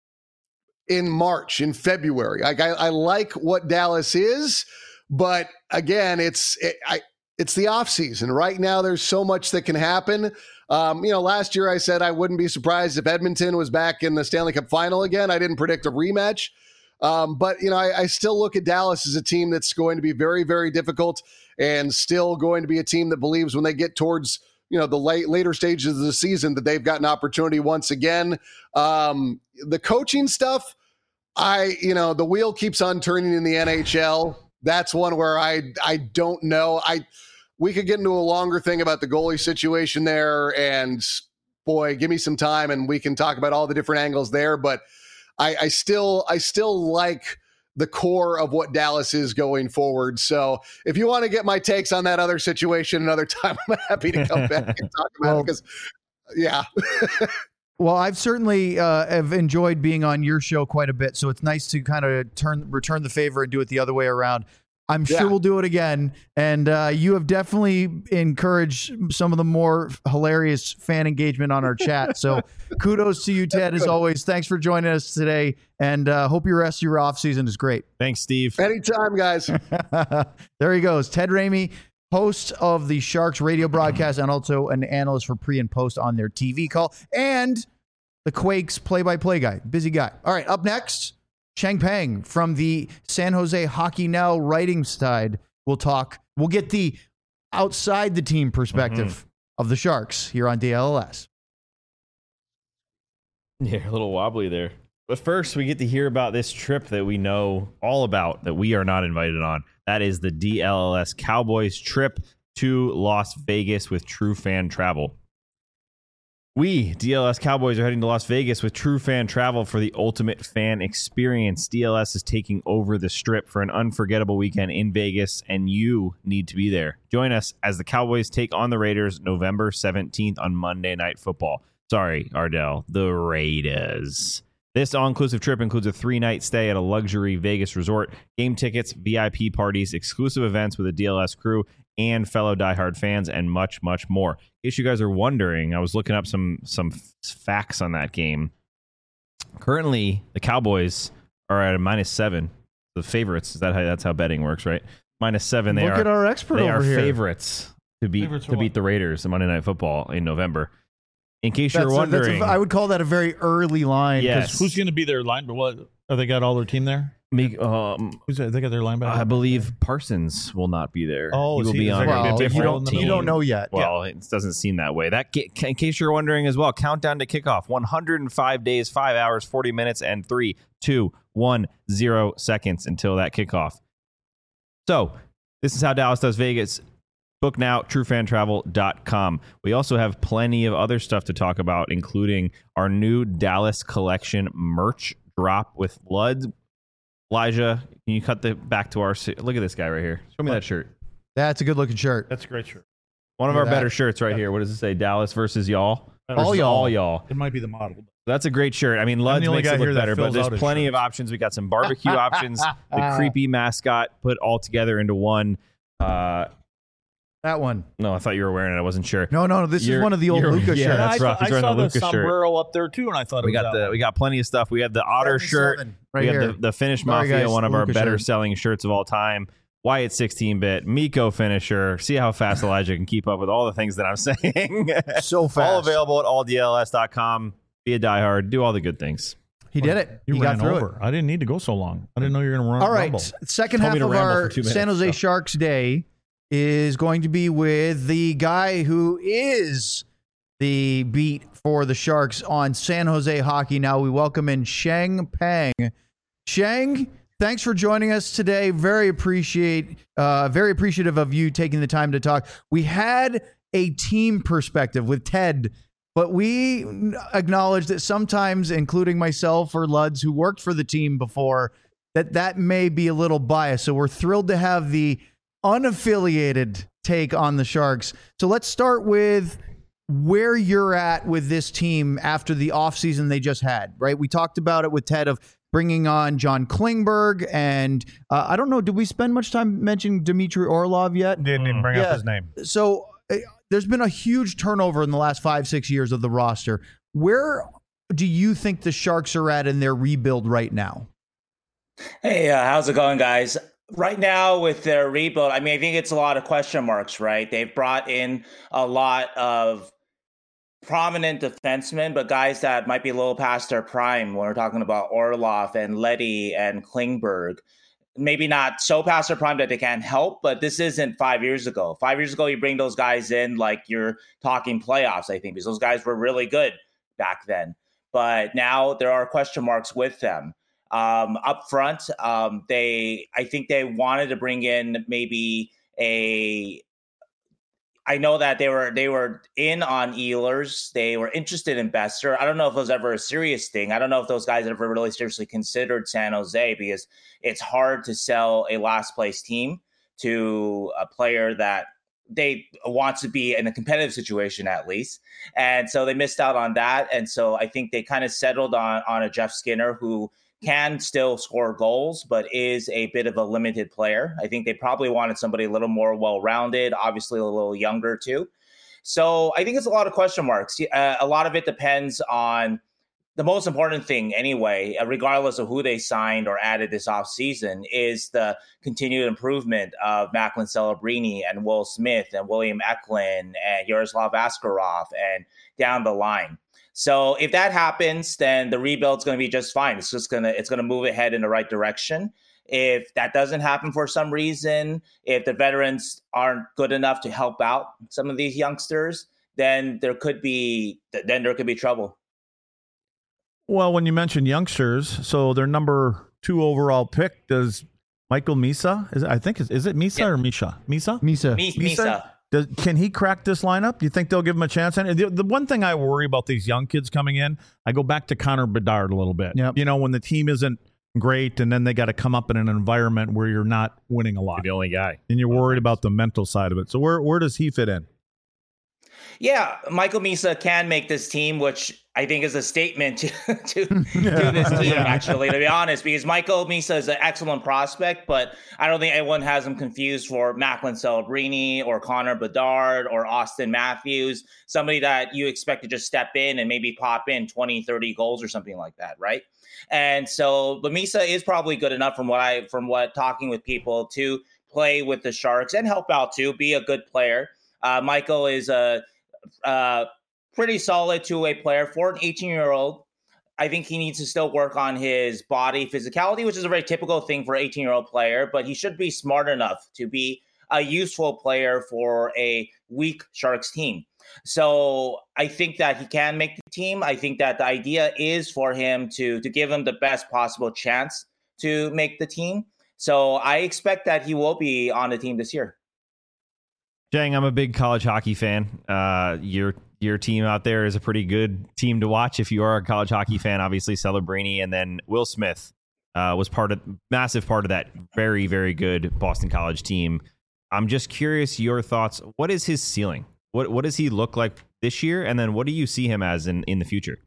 in March, in February. Like I, I like what Dallas is, but again, it's it, I, it's the offseason. Right now, there's so much that can happen. Um, you know, last year I said I wouldn't be surprised if Edmonton was back in the Stanley Cup final again. I didn't predict a rematch. Um, but, you know, I, I still look at Dallas as a team that's going to be very, very difficult, and still going to be a team that believes when they get towards, you know, the late, later stages of the season that they've got an opportunity once again. Um, the coaching stuff, I, you know, the wheel keeps on turning in the N H L. That's one where I, I don't know. I, we could get into a longer thing about the goalie situation there, and boy, give me some time and we can talk about all the different angles there. But I, I still, I still like the core of what Dallas is going forward. So if you want to get my takes on that other situation another time, I'm happy to come back and talk about well, it because, yeah. Well, I've certainly uh, have enjoyed being on your show quite a bit, so it's nice to kind of turn return the favor and do it the other way around. I'm sure yeah. we'll do it again, and uh, you have definitely encouraged some of the more hilarious fan engagement on our chat. So kudos to you, Ted, as always. Thanks for joining us today, and uh, hope your rest of your offseason is great. Thanks, Steve. Anytime, guys. There he goes, Ted Ramey, host of the Sharks radio broadcast and also an analyst for pre and post on their T V call, and the Quakes play-by-play guy. Busy guy. All right, up next, Chang Peng from the San Jose Hockey Now writing side. We'll talk. We'll get the outside the team perspective mm-hmm. of the Sharks here on D L L S. Yeah, a little wobbly there. But first, we get to hear about this trip that we know all about that we are not invited on. That is the D L L S Cowboys trip to Las Vegas with True Fan Travel. We, D L S Cowboys, are heading to Las Vegas with True Fan Travel for the ultimate fan experience. D L S is taking over the Strip for an unforgettable weekend in Vegas, and you need to be there. Join us as the Cowboys take on the Raiders November seventeenth on Monday Night Football. Sorry, Ardell, the Raiders. This all-inclusive trip includes a three-night stay at a luxury Vegas resort, game tickets, V I P parties, exclusive events with the D L S crew, and fellow diehard fans, and much, much more. In case you guys are wondering, I was looking up some some facts on that game. Currently, the Cowboys are at a minus seven. The favorites. Is that how that's how betting works, right? Minus seven. They Look are. at our expert they over are here. favorites to beat Favorites to beat the Raiders in Monday Night Football in November. In case That's you're a- that's a- wondering, I would call that a very early line. 'cause Yes. Who's going to be their line? But what? Have they got all their team there? me, um, Who's they got their linebacker? I believe Parsons will not be there. Oh, he is will he- be is on there a gonna Well, be a you different don't, role in the you team? don't know yet. Well, it doesn't seem that way. That get, in case you're wondering as well, countdown to kickoff: one hundred five days, five hours, forty minutes, and three, two, one, zero seconds until that kickoff. So this is how Dallas does Vegas. Book now, true fan travel dot com. We also have plenty of other stuff to talk about, including our new Dallas collection merch drop with blood. Elijah, can you cut the back to our... Look at this guy right here. Show me that shirt. That's a good looking shirt. That's a great shirt. One of Look our at that. better shirts right here. What does it say? Dallas versus y'all? All Versus y'all. All y'all. It might be the model. That's a great shirt. I mean, Luds the only makes guy it look here that better, but fills there's out his plenty of shirts. options. We got some barbecue options, the creepy mascot put all together into one. Uh, That one. no, I thought you were wearing it. I wasn't sure. No, no, this You're- is one of the old you're- Luca yeah, shirts. that's I, rough. He's I wearing saw the the Lucas shirt. sombrero up there too, and I thought it We was got that the one. we got plenty of stuff. We have the Otter shirt. seventy-seven right we here. have the, the Finnish Sorry, Mafia, guys, one of our Luca better shirt. selling shirts of all time. Wyatt sixteen bit, Miko finisher. See how fast Elijah can keep up with all the things that I'm saying. So fast. All available at all D L S dot com. be a diehard, do all the good things. He did it. You he ran got through over. it. I didn't need to go so long. I didn't know you were going to run. All right. rumble. Second Told half me to of ramble our for two minutes, San Jose so. Sharks day is going to be with the guy who is the beat for the Sharks on San Jose Hockey. Now we welcome in Sheng Peng. Sheng, thanks for joining us today. Very appreciate, uh, very appreciative of you taking the time to talk. We had a team perspective with Ted, but we acknowledge that sometimes, including myself or Luds, who worked for the team before, that that may be a little biased. So we're thrilled to have the unaffiliated take on the Sharks. So let's start with where you're at with this team after the offseason they just had, right? We talked about it with Ted of bringing on John Klingberg, and uh, I don't know, did we spend much time mentioning Dmitry Orlov yet? Didn't even bring Yeah. up his name. So uh, there's been a huge turnover in the last five, six years of the roster. Where do you think the Sharks are at in their rebuild right now? Hey, uh, how's it going, guys? Right now with their rebuild, I mean, I think it's a lot of question marks, right? They've brought in a lot of prominent defensemen, but guys that might be a little past their prime when we're talking about Orlov and Leddy and Klingberg. Maybe not so past their prime that they can't help, but this isn't five years ago. Five years ago, you bring those guys in like you're talking playoffs, I think, because those guys were really good back then. But now there are question marks with them. Um, up front, um, they I think they wanted to bring in maybe a I know that they were they were in on Ehlers. They were interested in Besser. I don't know if it was ever a serious thing. I don't know if those guys ever really seriously considered San Jose, because it's hard to sell a last place team to a player that they want to be in a competitive situation at least. And so they missed out on that. And so I think they kind of settled on on a Jeff Skinner who can still score goals, but is a bit of a limited player. I think they probably wanted somebody a little more well-rounded, obviously a little younger too. So I think it's a lot of question marks. Uh, a lot of it depends on the most important thing anyway, uh, regardless of who they signed or added this offseason, is the continued improvement of Macklin Celebrini and Will Smith and William Eklund and Yaroslav Askarov and down the line. So if that happens, then the rebuild's going to be just fine. It's just going to it's going to move ahead in the right direction. If that doesn't happen for some reason, if the veterans aren't good enough to help out some of these youngsters, then there could be then there could be trouble. Well, when you mention youngsters, so their number two overall pick, does Michael Misa, is it, I think, is, is it Misa Yeah. or Misha? Misa? Misa. Misa. Misa? Does, can he crack this lineup? Do you think they'll give him a chance? And the, the one thing I worry about these young kids coming in, I go back to Connor Bedard a little bit. Yep. You know, when the team isn't great and then they got to come up in an environment where you're not winning a lot. You're the only guy. And you're worried about the mental side of it. So where where does he fit in? Yeah, Michael Misa can make this team, which I think is a statement to to, to this team, actually, to be honest, because Michael Misa is an excellent prospect, but I don't think anyone has him confused for Macklin Celebrini or Connor Bedard or Austin Matthews, somebody that you expect to just step in and maybe pop in twenty, thirty goals or something like that, right? And so, but Misa is probably good enough from what I, from what talking with people to play with the Sharks and help out too, be a good player. Uh, Michael is a Uh, pretty solid two-way player for an eighteen-year-old. I think he needs to still work on his body physicality, which is a very typical thing for an eighteen-year-old player, but he should be smart enough to be a useful player for a weak Sharks team. So I think that he can make the team. I think that the idea is for him to, to give him the best possible chance to make the team. So I expect that he will be on the team this year. Jang, I'm a big college hockey fan. Uh, your your team out there is a pretty good team to watch if you are a college hockey fan. Obviously, Celebrini, and then Will Smith uh, was part of massive part of that very very good Boston College team. I'm just curious your thoughts. What is his ceiling? What what does he look like this year? And then what do you see him as in, in the future?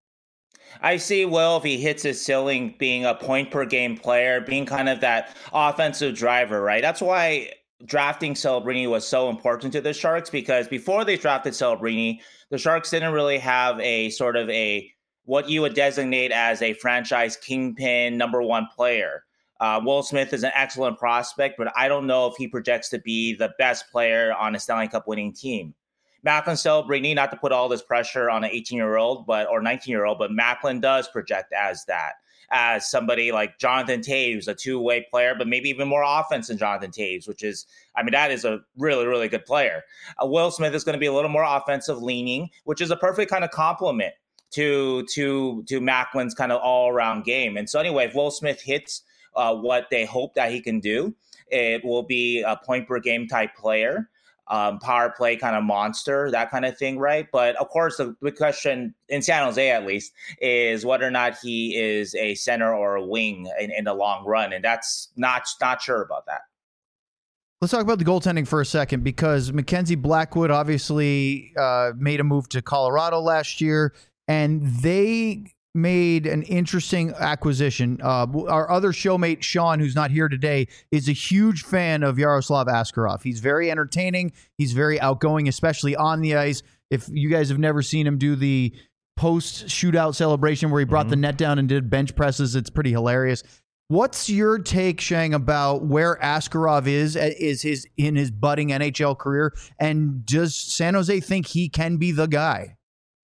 I see Will, if he hits his ceiling, being a point per game player, being kind of that offensive driver, right? That's why drafting Celebrini was so important to the Sharks, because before they drafted Celebrini, the Sharks didn't really have a sort of a what you would designate as a franchise kingpin number one player. Uh, Will Smith is an excellent prospect, but I don't know if he projects to be the best player on a Stanley Cup winning team. Macklin Celebrini, not to put all this pressure on an eighteen-year-old, but or nineteen-year-old, but Macklin does project as that, as somebody like Jonathan Toews, a two-way player, but maybe even more offense than Jonathan Toews, which is, I mean, that is a really, really good player. Uh, Will Smith is going to be a little more offensive leaning, which is a perfect kind of complement to to to Macklin's kind of all-around game. And so anyway, if Will Smith hits uh, what they hope that he can do, it will be a point-per-game type player. Um, power play kind of monster, that kind of thing, right? But of course, the big question in San Jose, at least, is whether or not he is a center or a wing in, in the long run, and that's not not sure about that. Let's talk about the goaltending for a second, because Mackenzie Blackwood obviously uh, made a move to Colorado last year, and they made an interesting acquisition. Uh, our other showmate, Sean, who's not here today, is a huge fan of Yaroslav Askarov. He's very entertaining. He's very outgoing, especially on the ice. If you guys have never seen him do the post shootout celebration where he brought mm-hmm. the net down and did bench presses, it's pretty hilarious. What's your take, Shang, about where Askarov is is his in his budding N H L career, and does San Jose think he can be the guy?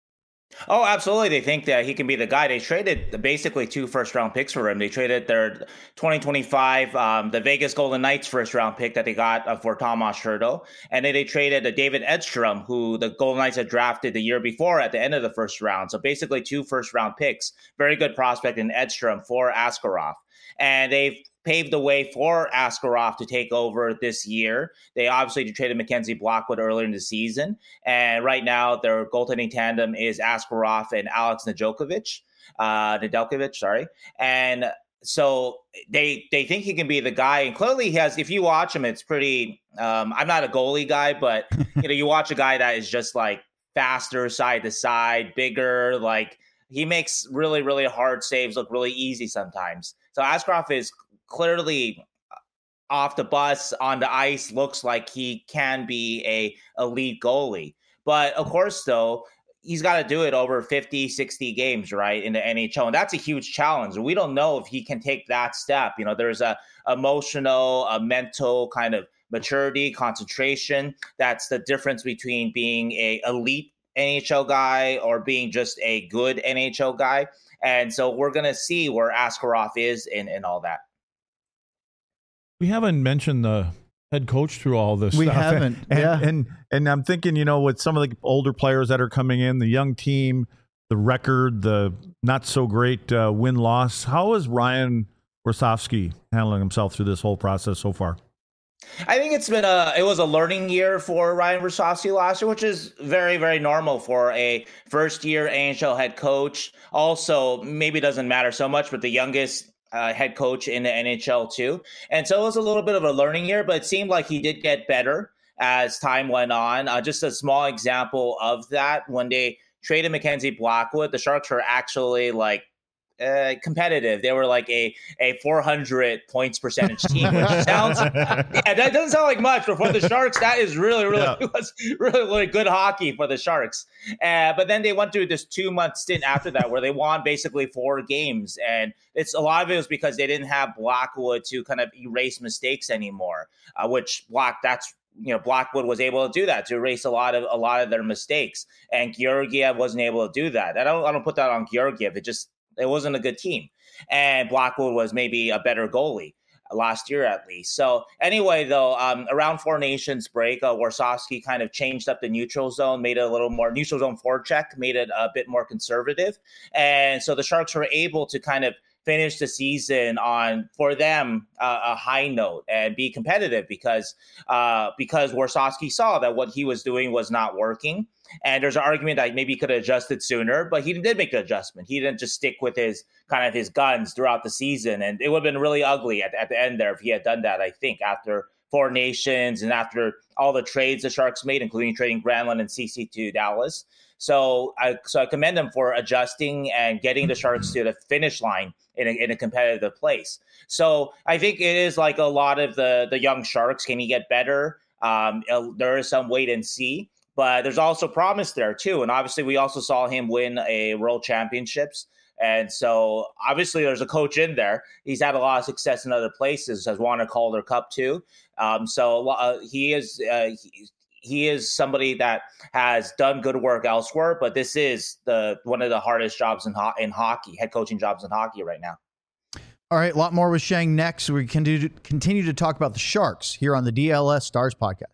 Oh, absolutely. They think that he can be the guy. They traded basically two first-round picks for him. They traded their twenty twenty-five, um, the Vegas Golden Knights first-round pick that they got uh, for Tomas Hertl. And then they traded uh, David Edstrom, who the Golden Knights had drafted the year before at the end of the first round. So basically two first-round picks. Very good prospect in Edstrom for Askarov. And they've paved the way for Askarov to take over this year. They obviously traded Mackenzie Blackwood earlier in the season. And right now, their goaltending tandem is Askarov and Alex Nedeljkovic. Uh, Nedeljkovic, sorry. And so they they think he can be the guy. And clearly he has, if you watch him, it's pretty, um, I'm not a goalie guy, but you know, you watch a guy that is just like faster side to side, bigger, like he makes really, really hard saves look really easy sometimes. So Askarov is clearly off the bus, on the ice, looks like he can be a elite goalie. But of course, though, he's got to do it over fifty, sixty games, right, in the N H L. And that's a huge challenge. We don't know if he can take that step. You know, there's a emotional, a mental kind of maturity, concentration. That's the difference between being a elite N H L guy or being just a good N H L guy. And so we're going to see where Askarov is in, in all that. We haven't mentioned the head coach through all this we stuff. haven't. And, yeah. and, and and I'm thinking, you know, with some of the older players that are coming in, the young team, the record, the not so great uh, win-loss, how is Ryan Rosofsky handling himself through this whole process so far? I think it's been a it was a learning year for Ryan Rosofsky last year, which is very, very normal for a first-year N H L head coach. Also, maybe it doesn't matter so much, but the youngest Uh, head coach in the N H L too. And so it was a little bit of a learning year, but it seemed like he did get better as time went on. Uh, just a small example of that, when they traded Mackenzie Blackwood, the Sharks were actually like uh, competitive. They were like a, a four hundred points percentage team, which sounds, yeah, that doesn't sound like much, but for the Sharks, that is really, really, yeah. was really, really good hockey for the Sharks. Uh, but then they went through this two month stint after that where they won basically four games. And it's a lot of it was because they didn't have Blackwood to kind of erase mistakes anymore, uh, which Black, that's, you know, Blackwood was able to do that, to erase a lot of a lot of their mistakes. And Georgiev wasn't able to do that. I don't, I don't put that on Georgiev. It just, it wasn't a good team. And Blackwood was maybe a better goalie last year at least. So anyway, though, um, around Four Nations break, uh, Warsawski kind of changed up the neutral zone, made it a little more neutral zone forecheck, made it a bit more conservative. And so the Sharks were able to kind of finish the season on, for them, uh, a high note and be competitive because uh, because Warsawski saw that what he was doing was not working. And there's an argument that maybe he could have adjusted sooner, but he did make the adjustment. He didn't just stick with his kind of his guns throughout the season. And it would have been really ugly at, at the end there if he had done that, I think, after Four Nations and after all the trades the Sharks made, including trading Granlund and C C to Dallas. So I so I commend them for adjusting and getting the Sharks to the finish line in a, in a competitive place. So I think it is like a lot of the, the young Sharks. Can he get better? Um, there is some wait and see. But there's also promise there, too. And obviously, we also saw him win a World Championships. And so, obviously, there's a coach in there. He's had a lot of success in other places, has won a Calder Cup, too. Um, so uh, he is uh, he, he is somebody that has done good work elsewhere, but this is the one of the hardest jobs in ho- in hockey, head coaching jobs in hockey right now. All right, a lot more with Sheng next. We can do, continue to talk about the Sharks here on the D L S Stars podcast.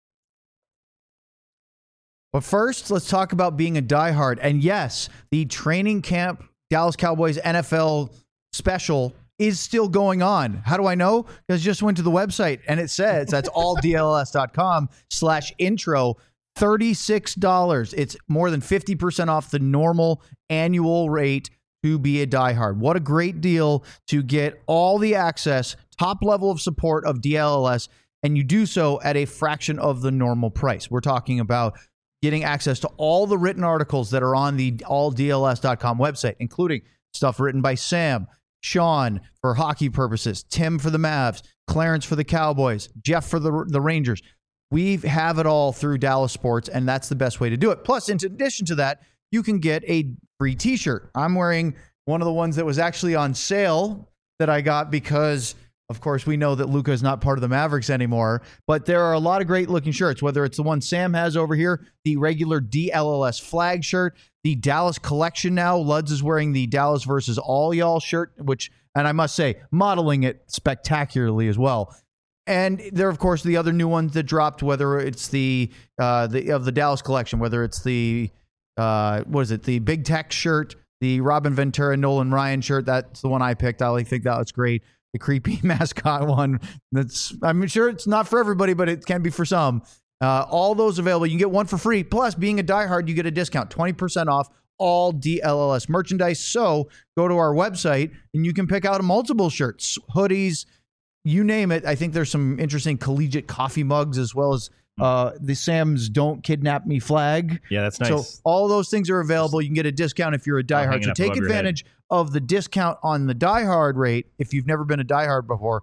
But first, let's talk about being a diehard. And yes, the training camp Dallas Cowboys N F L special is still going on. How do I know? Because I just went to the website and it says that's all D L S dot com slash intro, thirty-six dollars. It's more than fifty percent off the normal annual rate to be a diehard. What a great deal to get all the access, top level of support of D L S, and you do so at a fraction of the normal price. We're talking about getting access to all the written articles that are on the all D L S dot com website, including stuff written by Sam, Sean for hockey purposes, Tim for the Mavs, Clarence for the Cowboys, Jeff for the, the Rangers. We have it all through Dallas Sports, and that's the best way to do it. Plus, in addition to that, you can get a free t-shirt. I'm wearing one of the ones that was actually on sale that I got because, of course, we know that Luka is not part of the Mavericks anymore, but there are a lot of great looking shirts, whether it's the one Sam has over here, the regular D L L S flag shirt, the Dallas collection now. Luds is wearing the Dallas versus all y'all shirt, which, and I must say, modeling it spectacularly as well. And there, of course, the other new ones that dropped, whether it's the, uh, the of the Dallas collection, whether it's the, uh, what is it, the Big Tech shirt, the Robin Ventura, Nolan Ryan shirt. That's the one I picked. I think that was great. The creepy mascot one. That's, I'm sure it's not for everybody, but it can be for some. Uh, all those available. You can get one for free. Plus, being a diehard, you get a discount, twenty percent off all D L L S merchandise. So go to our website and you can pick out multiple shirts, hoodies, you name it. I think there's some interesting collegiate coffee mugs as well as uh, the Sam's Don't Kidnap Me flag. Yeah, that's nice. So all those things are available. You can get a discount if you're a diehard. So take advantage of the discount on the diehard rate if you've never been a diehard before,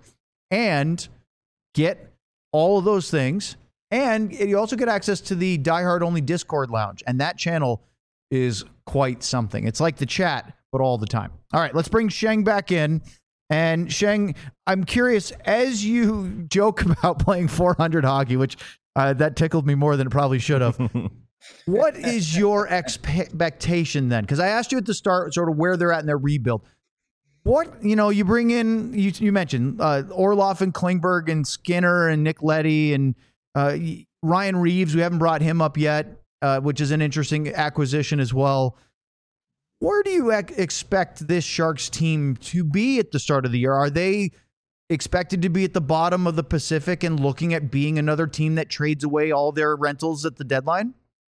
and get all of those things. And you also get access to the diehard only Discord lounge, and that channel is quite something. It's like the chat, but all the time. All right, let's bring Sheng back in. And Sheng, I'm curious, as you joke about playing four hundred hockey, which uh, that tickled me more than it probably should have. What is your expectation then? Because I asked you at the start sort of where they're at in their rebuild. What, you know, you bring in, you, you mentioned uh, Orlov and Klingberg and Skinner and Nick Leddy and uh, Ryan Reeves. We haven't brought him up yet, uh, which is an interesting acquisition as well. Where do you ec- expect this Sharks team to be at the start of the year? Are they expected to be at the bottom of the Pacific and looking at being another team that trades away all their rentals at the deadline?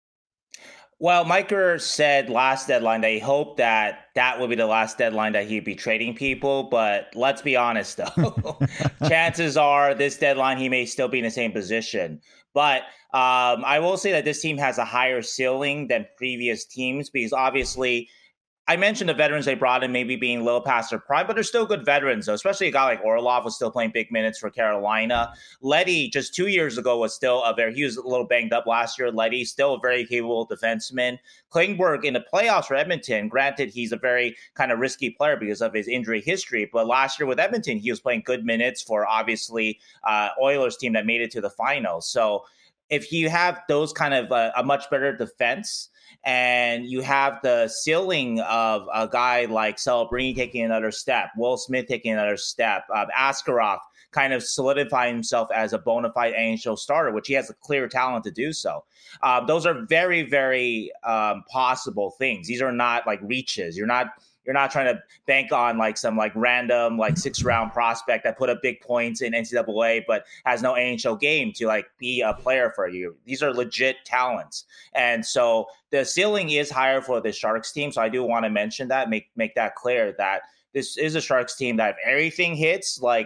Well, Miker said last deadline that he hoped that that would be the last deadline that he'd be trading people. But let's be honest, though. Chances are this deadline he may still be in the same position. But um, I will say that this team has a higher ceiling than previous teams because obviously I mentioned the veterans they brought in maybe being a little past their prime, but they're still good veterans, though, especially a guy like Orlov was still playing big minutes for Carolina. Leddy, just two years ago, was still a very, he was a little banged up last year. Leddy, still a very capable defenseman. Klingberg in the playoffs for Edmonton, granted, he's a very kind of risky player because of his injury history, but last year with Edmonton, he was playing good minutes for obviously uh, Oilers team that made it to the finals. So if you have those kind of uh, a much better defense, and you have the ceiling of a guy like Celebrini taking another step, Will Smith taking another step, uh, Askarov kind of solidifying himself as a bona fide N H L starter, which he has a clear talent to do so. Uh, those are very, very um, possible things. These are not like reaches. You're not You're not trying to bank on like some like random like six round prospect that put up big points in N C double A but has no N H L game to like be a player for you. These are legit talents. And so the ceiling is higher for the Sharks team. So I do want to mention that, make make that clear that this is a Sharks team that if everything hits, like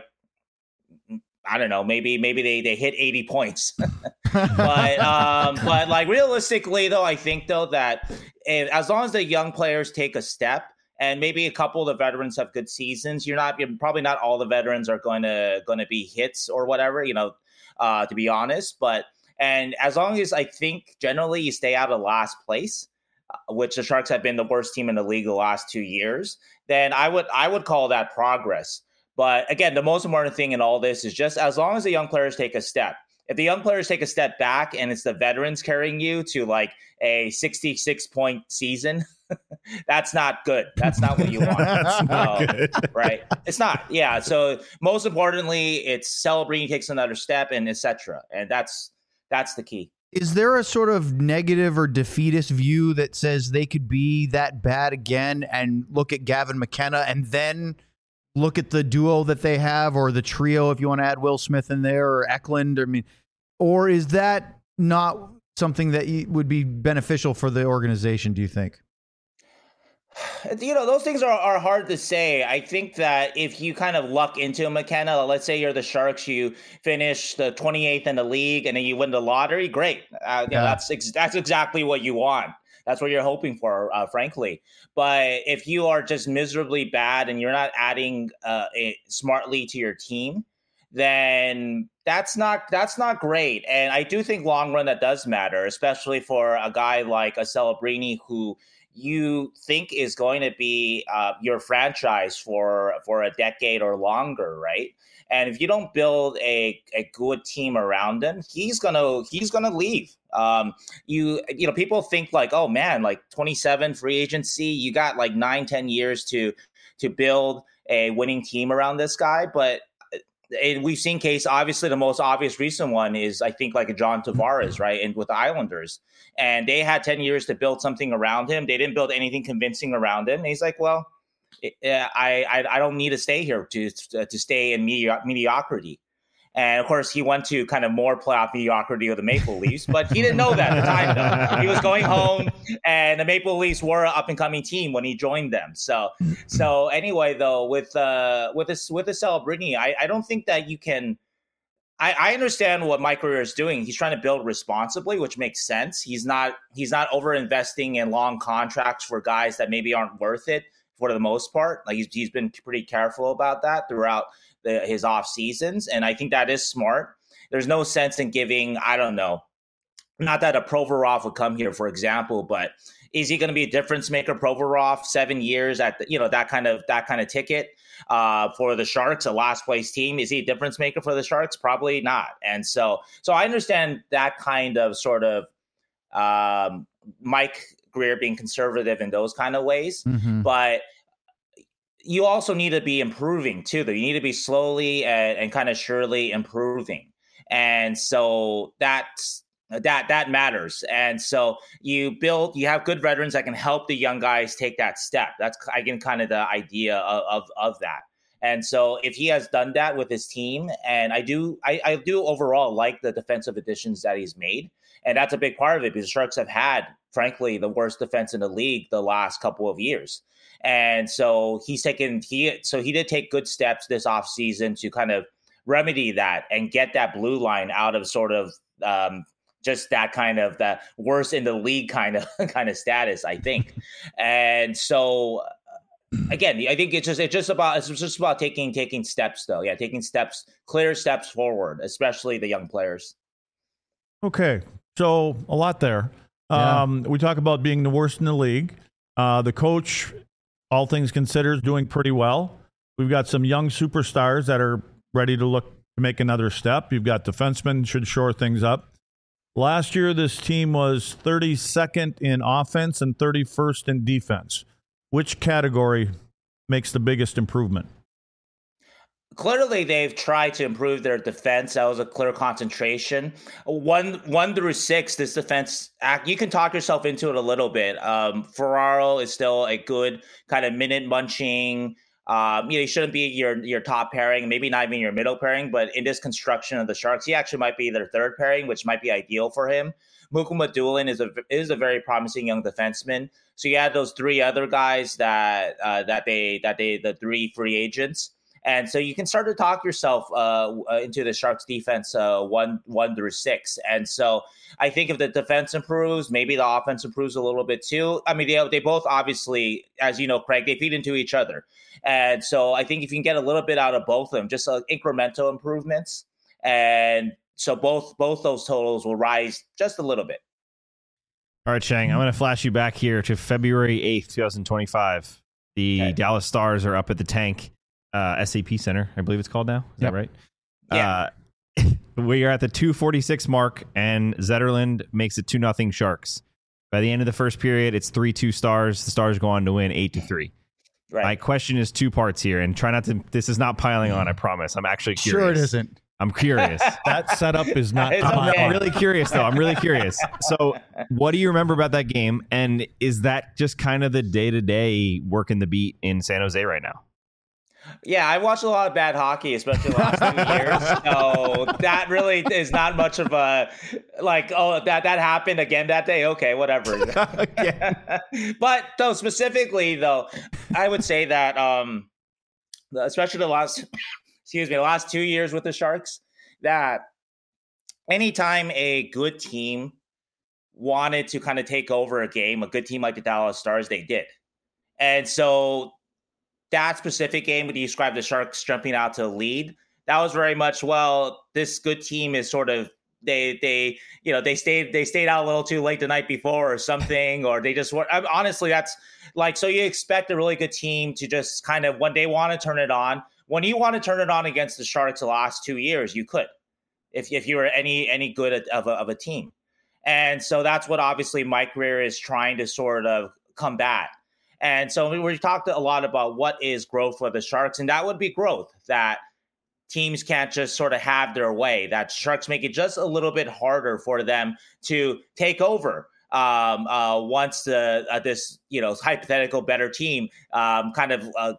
I don't know, maybe maybe they, they hit eighty points. but um, but like realistically though, I think though that if, as long as the young players take a step, and maybe a couple of the veterans have good seasons, you're not you're probably not all the veterans are going to going to be hits or whatever, you know, uh, to be honest. But and as long as I think generally you stay out of last place, uh, which the Sharks have been the worst team in the league the last two years, then I would I would call that progress. But again, the most important thing in all this is just as long as the young players take a step. If the young players take a step back and it's the veterans carrying you to like a sixty-six point season, that's not good. That's not what you want. That's not um, good. Right? It's not. Yeah. So most importantly, it's Celebrini takes another step and et cetera. And that's that's the key. Is there a sort of negative or defeatist view that says they could be that bad again and look at Gavin McKenna and then look at the duo that they have, or the trio if you want to add Will Smith in there, or Eklund? I mean, or is that not something that would be beneficial for the organization, do you think? You know, those things are, are hard to say. I think that if you kind of luck into McKenna, let's say you're the Sharks, you finish the twenty-eighth in the league and then you win the lottery, great. Uh, you know, Yeah. that's ex- that's exactly what you want. That's what you're hoping for, uh, frankly. But if you are just miserably bad and you're not adding uh, it smartly to your team, then that's not that's not great. And I do think long run that does matter, especially for a guy like a Celebrini who you think is going to be uh, your franchise for for a decade or longer, right? And if you don't build a, a good team around him, he's gonna he's gonna leave. Um, you you know, people think like, oh man, like twenty-seven free agency, you got like nine, ten years to to build a winning team around this guy, but. And we've seen case, obviously, the most obvious recent one is, I think, like a John Tavares, right, and with the Islanders. And they had ten years to build something around him. They didn't build anything convincing around him. And he's like, well, I I, I don't need to stay here to to stay in medi- mediocrity. And, of course, he went to kind of more playoff mediocrity with the Maple Leafs, but he didn't know that at the time, though. He was going home, and the Maple Leafs were an up-and-coming team when he joined them. So, so anyway, though, with uh, with this with the Celebrini, I, I don't think that you can. I, I understand what Mike Grier is doing. He's trying to build responsibly, which makes sense. He's not he's not over-investing in long contracts for guys that maybe aren't worth it for the most part. Like he's he's been pretty careful about that throughout the, his off seasons, and I think that is smart. There's no sense in giving, I don't know, not that a Provorov would come here, for example, but is he going to be a difference maker? Provorov, seven years at the, you know, that kind of that kind of ticket uh, for the Sharks, a last place team. Is he a difference maker for the Sharks? Probably not. And so, so I understand that kind of sort of um, Mike Grier being conservative in those kind of ways, Mm-hmm. but you also need to be improving too, though. You need to be slowly and, and kind of surely improving. And so that's, that, that matters. And so you build, you have good veterans that can help the young guys take that step. That's, again, kind of the idea of, of, of that. And so if he has done that with his team, and I do, I, I do overall like the defensive additions that he's made. And that's a big part of it because the Sharks have had, frankly, the worst defense in the league the last couple of years. And so he's taken, he, so he did take good steps this offseason to kind of remedy that and get that blue line out of sort of um, just that kind of the worst in the league kind of kind of status, I think. And so again, I think it's just, it's just about, it's just about taking, taking steps though. Yeah. Taking steps, clear steps forward, especially the young players. Okay. So a lot there. Yeah. Um, we talk about being the worst in the league. Uh, the coach, all things considered, is doing pretty well. We've got some young superstars that are ready to look to make another step. You've got defensemen should shore things up. Last year, this team was thirty-second in offense and thirty-first in defense. Which category makes the biggest improvement? Clearly, they've tried to improve their defense. That was a clear concentration. One, one through six, this defense, you can talk yourself into it a little bit. Um, Ferraro is still a good kind of minute munching. Um, you know, he shouldn't be your your top pairing, maybe not even your middle pairing. But in this construction of the Sharks, he actually might be their third pairing, which might be ideal for him. Mukuma Doolin is a is a very promising young defenseman. So you had those three other guys that uh, that they that they the three free agents. And so you can start to talk yourself uh, into the Sharks defense uh, one one through six. And so I think if the defense improves, maybe the offense improves a little bit too. I mean, they, they both obviously, as you know, Craig, they feed into each other. And so I think if you can get a little bit out of both of them, just uh, incremental improvements. And so both both those totals will rise just a little bit. All right, Shang, I'm going to flash you back here to February eighth, twenty twenty-five. The Okay. Dallas Stars are up at the Tank uh, S A P Center, I believe it's called now. Is Yep. that right? Yeah. Uh, we are at the two forty-six mark, and Zetterlund makes it two nothing Sharks. By the end of the first period, it's three two Stars. The Stars go on to win eight to three. Right. My question is two parts here, and try not to. This is not piling on. I promise. I'm actually curious. Sure, it isn't. I'm curious. That setup is not. It's I'm, okay. I'm really curious, though. I'm really curious. So, what do you remember about that game? And is that just kind of the day to day working the beat in San Jose right now? Yeah, I watched a lot of bad hockey, especially the last few years. So that really is not much of a like. Oh, that that happened again that day. Okay, whatever. But though specifically, though, I would say that, um, especially the last, excuse me, the last two years with the Sharks, that anytime a good team wanted to kind of take over a game, a good team like the Dallas Stars, they did, and so. That specific game when you described the Sharks jumping out to the lead, that was very much, well, this good team is sort of they they you know they stayed they stayed out a little too late the night before or something, or they just were. Honestly, that's like, so you expect a really good team to just kind of when they want to turn it on. When you want to turn it on against the Sharks the last two years, you could, if if you were any any good at, of a, of a team, and so that's what obviously Mike Grier is trying to sort of combat. And so we, we talked a lot about what is growth for the Sharks, and that would be growth, that teams can't just sort of have their way, that Sharks make it just a little bit harder for them to take over um, uh, once the uh, this, you know, hypothetical better team um, kind of uh,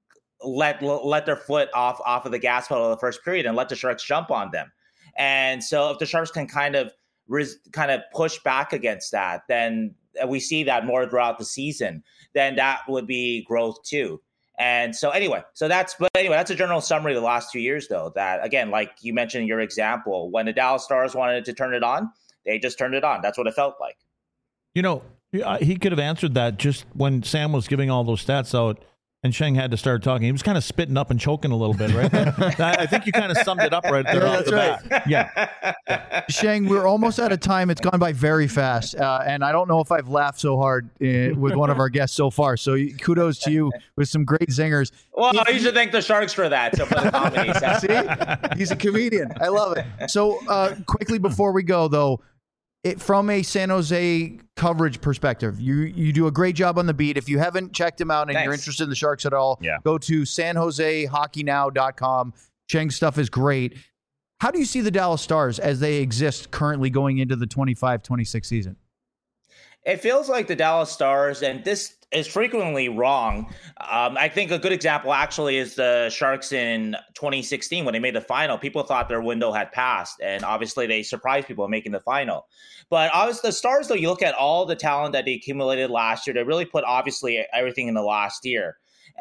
let let their foot off, off of the gas pedal of the first period and let the Sharks jump on them. And so if the Sharks can kind of res- kind of push back against that, then we see that more throughout the season, then that would be growth too. And so anyway, so that's, but anyway, that's a general summary of the last two years though, that again, like you mentioned in your example, when the Dallas Stars wanted to turn it on, they just turned it on. That's what it felt like. You know, he could have answered that just when Sam was giving all those stats out and Sheng had to start talking. He was kind of spitting up and choking a little bit, right? I think you kind of summed it up right there. Yeah, off that's the right. bat. Yeah. Sheng, we're almost out of time. It's gone by very fast. Uh, and I don't know if I've laughed so hard uh, with one of our guests so far. So kudos to you with some great zingers. Well, if you should thank the Sharks for that. So for the comedy. See? He's a comedian. I love it. So uh, quickly before we go, though, it, from a San Jose coverage perspective, you you do a great job on the beat. If you haven't checked him out and Thanks. you're interested in the Sharks at all, Yeah. go to san jose hockey now dot com. Sheng's stuff is great. How do you see the Dallas Stars as they exist currently going into the twenty-five twenty-six season? It feels like the Dallas Stars, and this is frequently wrong. Um, I think a good example actually is the Sharks in twenty sixteen when they made the final. People thought their window had passed, and obviously they surprised people in making the final. But obviously the Stars, though, you look at all the talent that they accumulated last year, they really put obviously everything in the last year.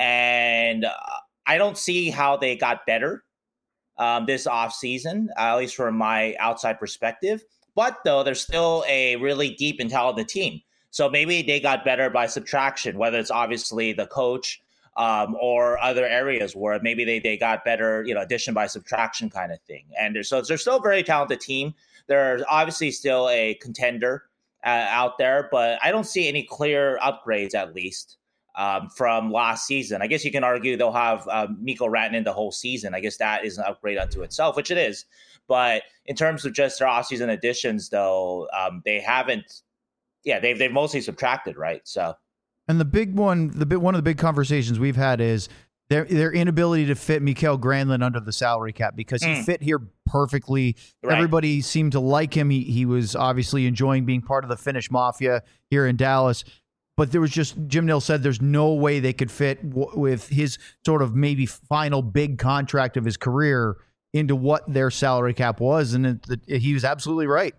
And uh, I don't see how they got better um, this offseason, uh, at least from my outside perspective. But, though, they're still a really deep and talented team. So maybe they got better by subtraction, whether it's obviously the coach um, or other areas where maybe they, they got better, you know, addition by subtraction kind of thing. And they're, so they're still a very talented team. They're obviously still a contender uh, out there, but I don't see any clear upgrades, at least, um, from last season. I guess you can argue they'll have uh, Mikko Rantanen the whole season. I guess that is an upgrade unto itself, which it is. But in terms of just their offseason additions, though, um, they haven't. Yeah, they've they've mostly subtracted, right? So, and the big one, the big one of the big conversations we've had is their their inability to fit Mikael Granlund under the salary cap because he Mm. fit here perfectly. Right. Everybody seemed to like him. He he was obviously enjoying being part of the Finnish mafia here in Dallas. But there was just, Jim Nill said there's no way they could fit w- with his sort of maybe final big contract of his career into what their salary cap was. And it, it, he was absolutely right.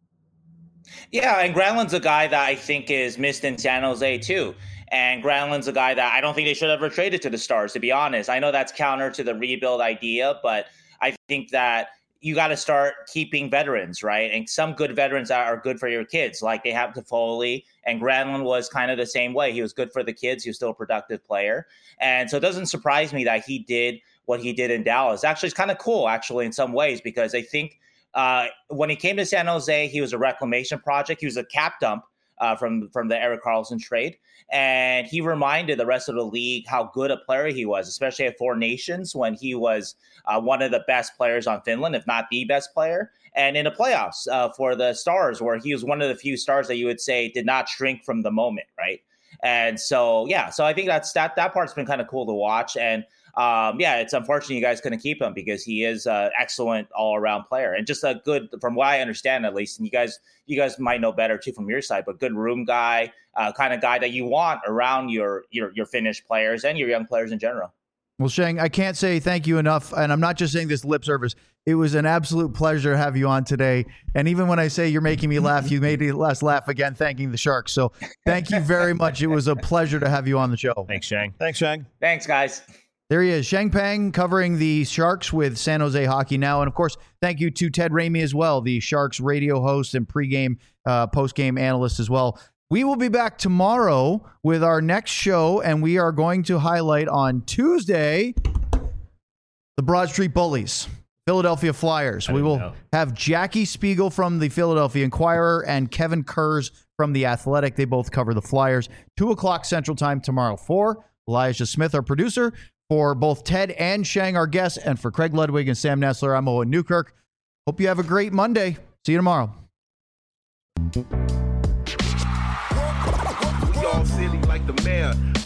yeah, and Granlund's a guy that I think is missed in San Jose too. And Granlund's a guy that I don't think they should have ever traded to the Stars, to be honest. I know that's counter to the rebuild idea, but I think that you got to start keeping veterans, right? And some good veterans that are good for your kids, like they have Toffoli, and Granlund was kind of the same way. He was good for the kids. He was still a productive player. And so it doesn't surprise me that he did what he did in Dallas. Actually, it's kind of cool, actually, in some ways, because I think uh, when he came to San Jose, he was a reclamation project. He was a cap dump uh, from from the Erik Karlsson trade. And he reminded the rest of the league how good a player he was, especially at Four Nations when he was uh, one of the best players on Finland, if not the best player. And in the playoffs uh, for the Stars, where he was one of the few stars that you would say did not shrink from the moment, right? And so, yeah, so I think that's that that part's been kind of cool to watch. And um, yeah, it's unfortunate you guys couldn't keep him because he is an excellent all-around player and just a good, from what I understand at least, and you guys you guys might know better too from your side, but good room guy, uh, kind of guy that you want around your your your Finnish players and your young players in general. Well, Sheng, I can't say thank you enough, and I'm not just saying this lip service. It was an absolute pleasure to have you on today. And even when I say you're making me laugh, you made us laugh again, thanking the Sharks. So thank you very much. It was a pleasure to have you on the show. Thanks, Sheng. Thanks, Sheng. Thanks, guys. There he is, Sheng Peng, covering the Sharks with San Jose Hockey Now. And, of course, thank you to Ted Ramey as well, the Sharks radio host and pregame, uh, postgame analyst as well. We will be back tomorrow with our next show, and we are going to highlight on Tuesday the Broad Street Bullies, Philadelphia Flyers. We will know. have Jackie Spiegel from the Philadelphia Inquirer and Kevin Kurz from The Athletic. They both cover the Flyers. two o'clock Central Time tomorrow. For Elijah Smith, our producer, for both Ted and Sheng, our guests, and for Craig Ludwig and Sam Nessler, I'm Owen Newkirk. Hope you have a great Monday. See you tomorrow. We all silly like the mayor.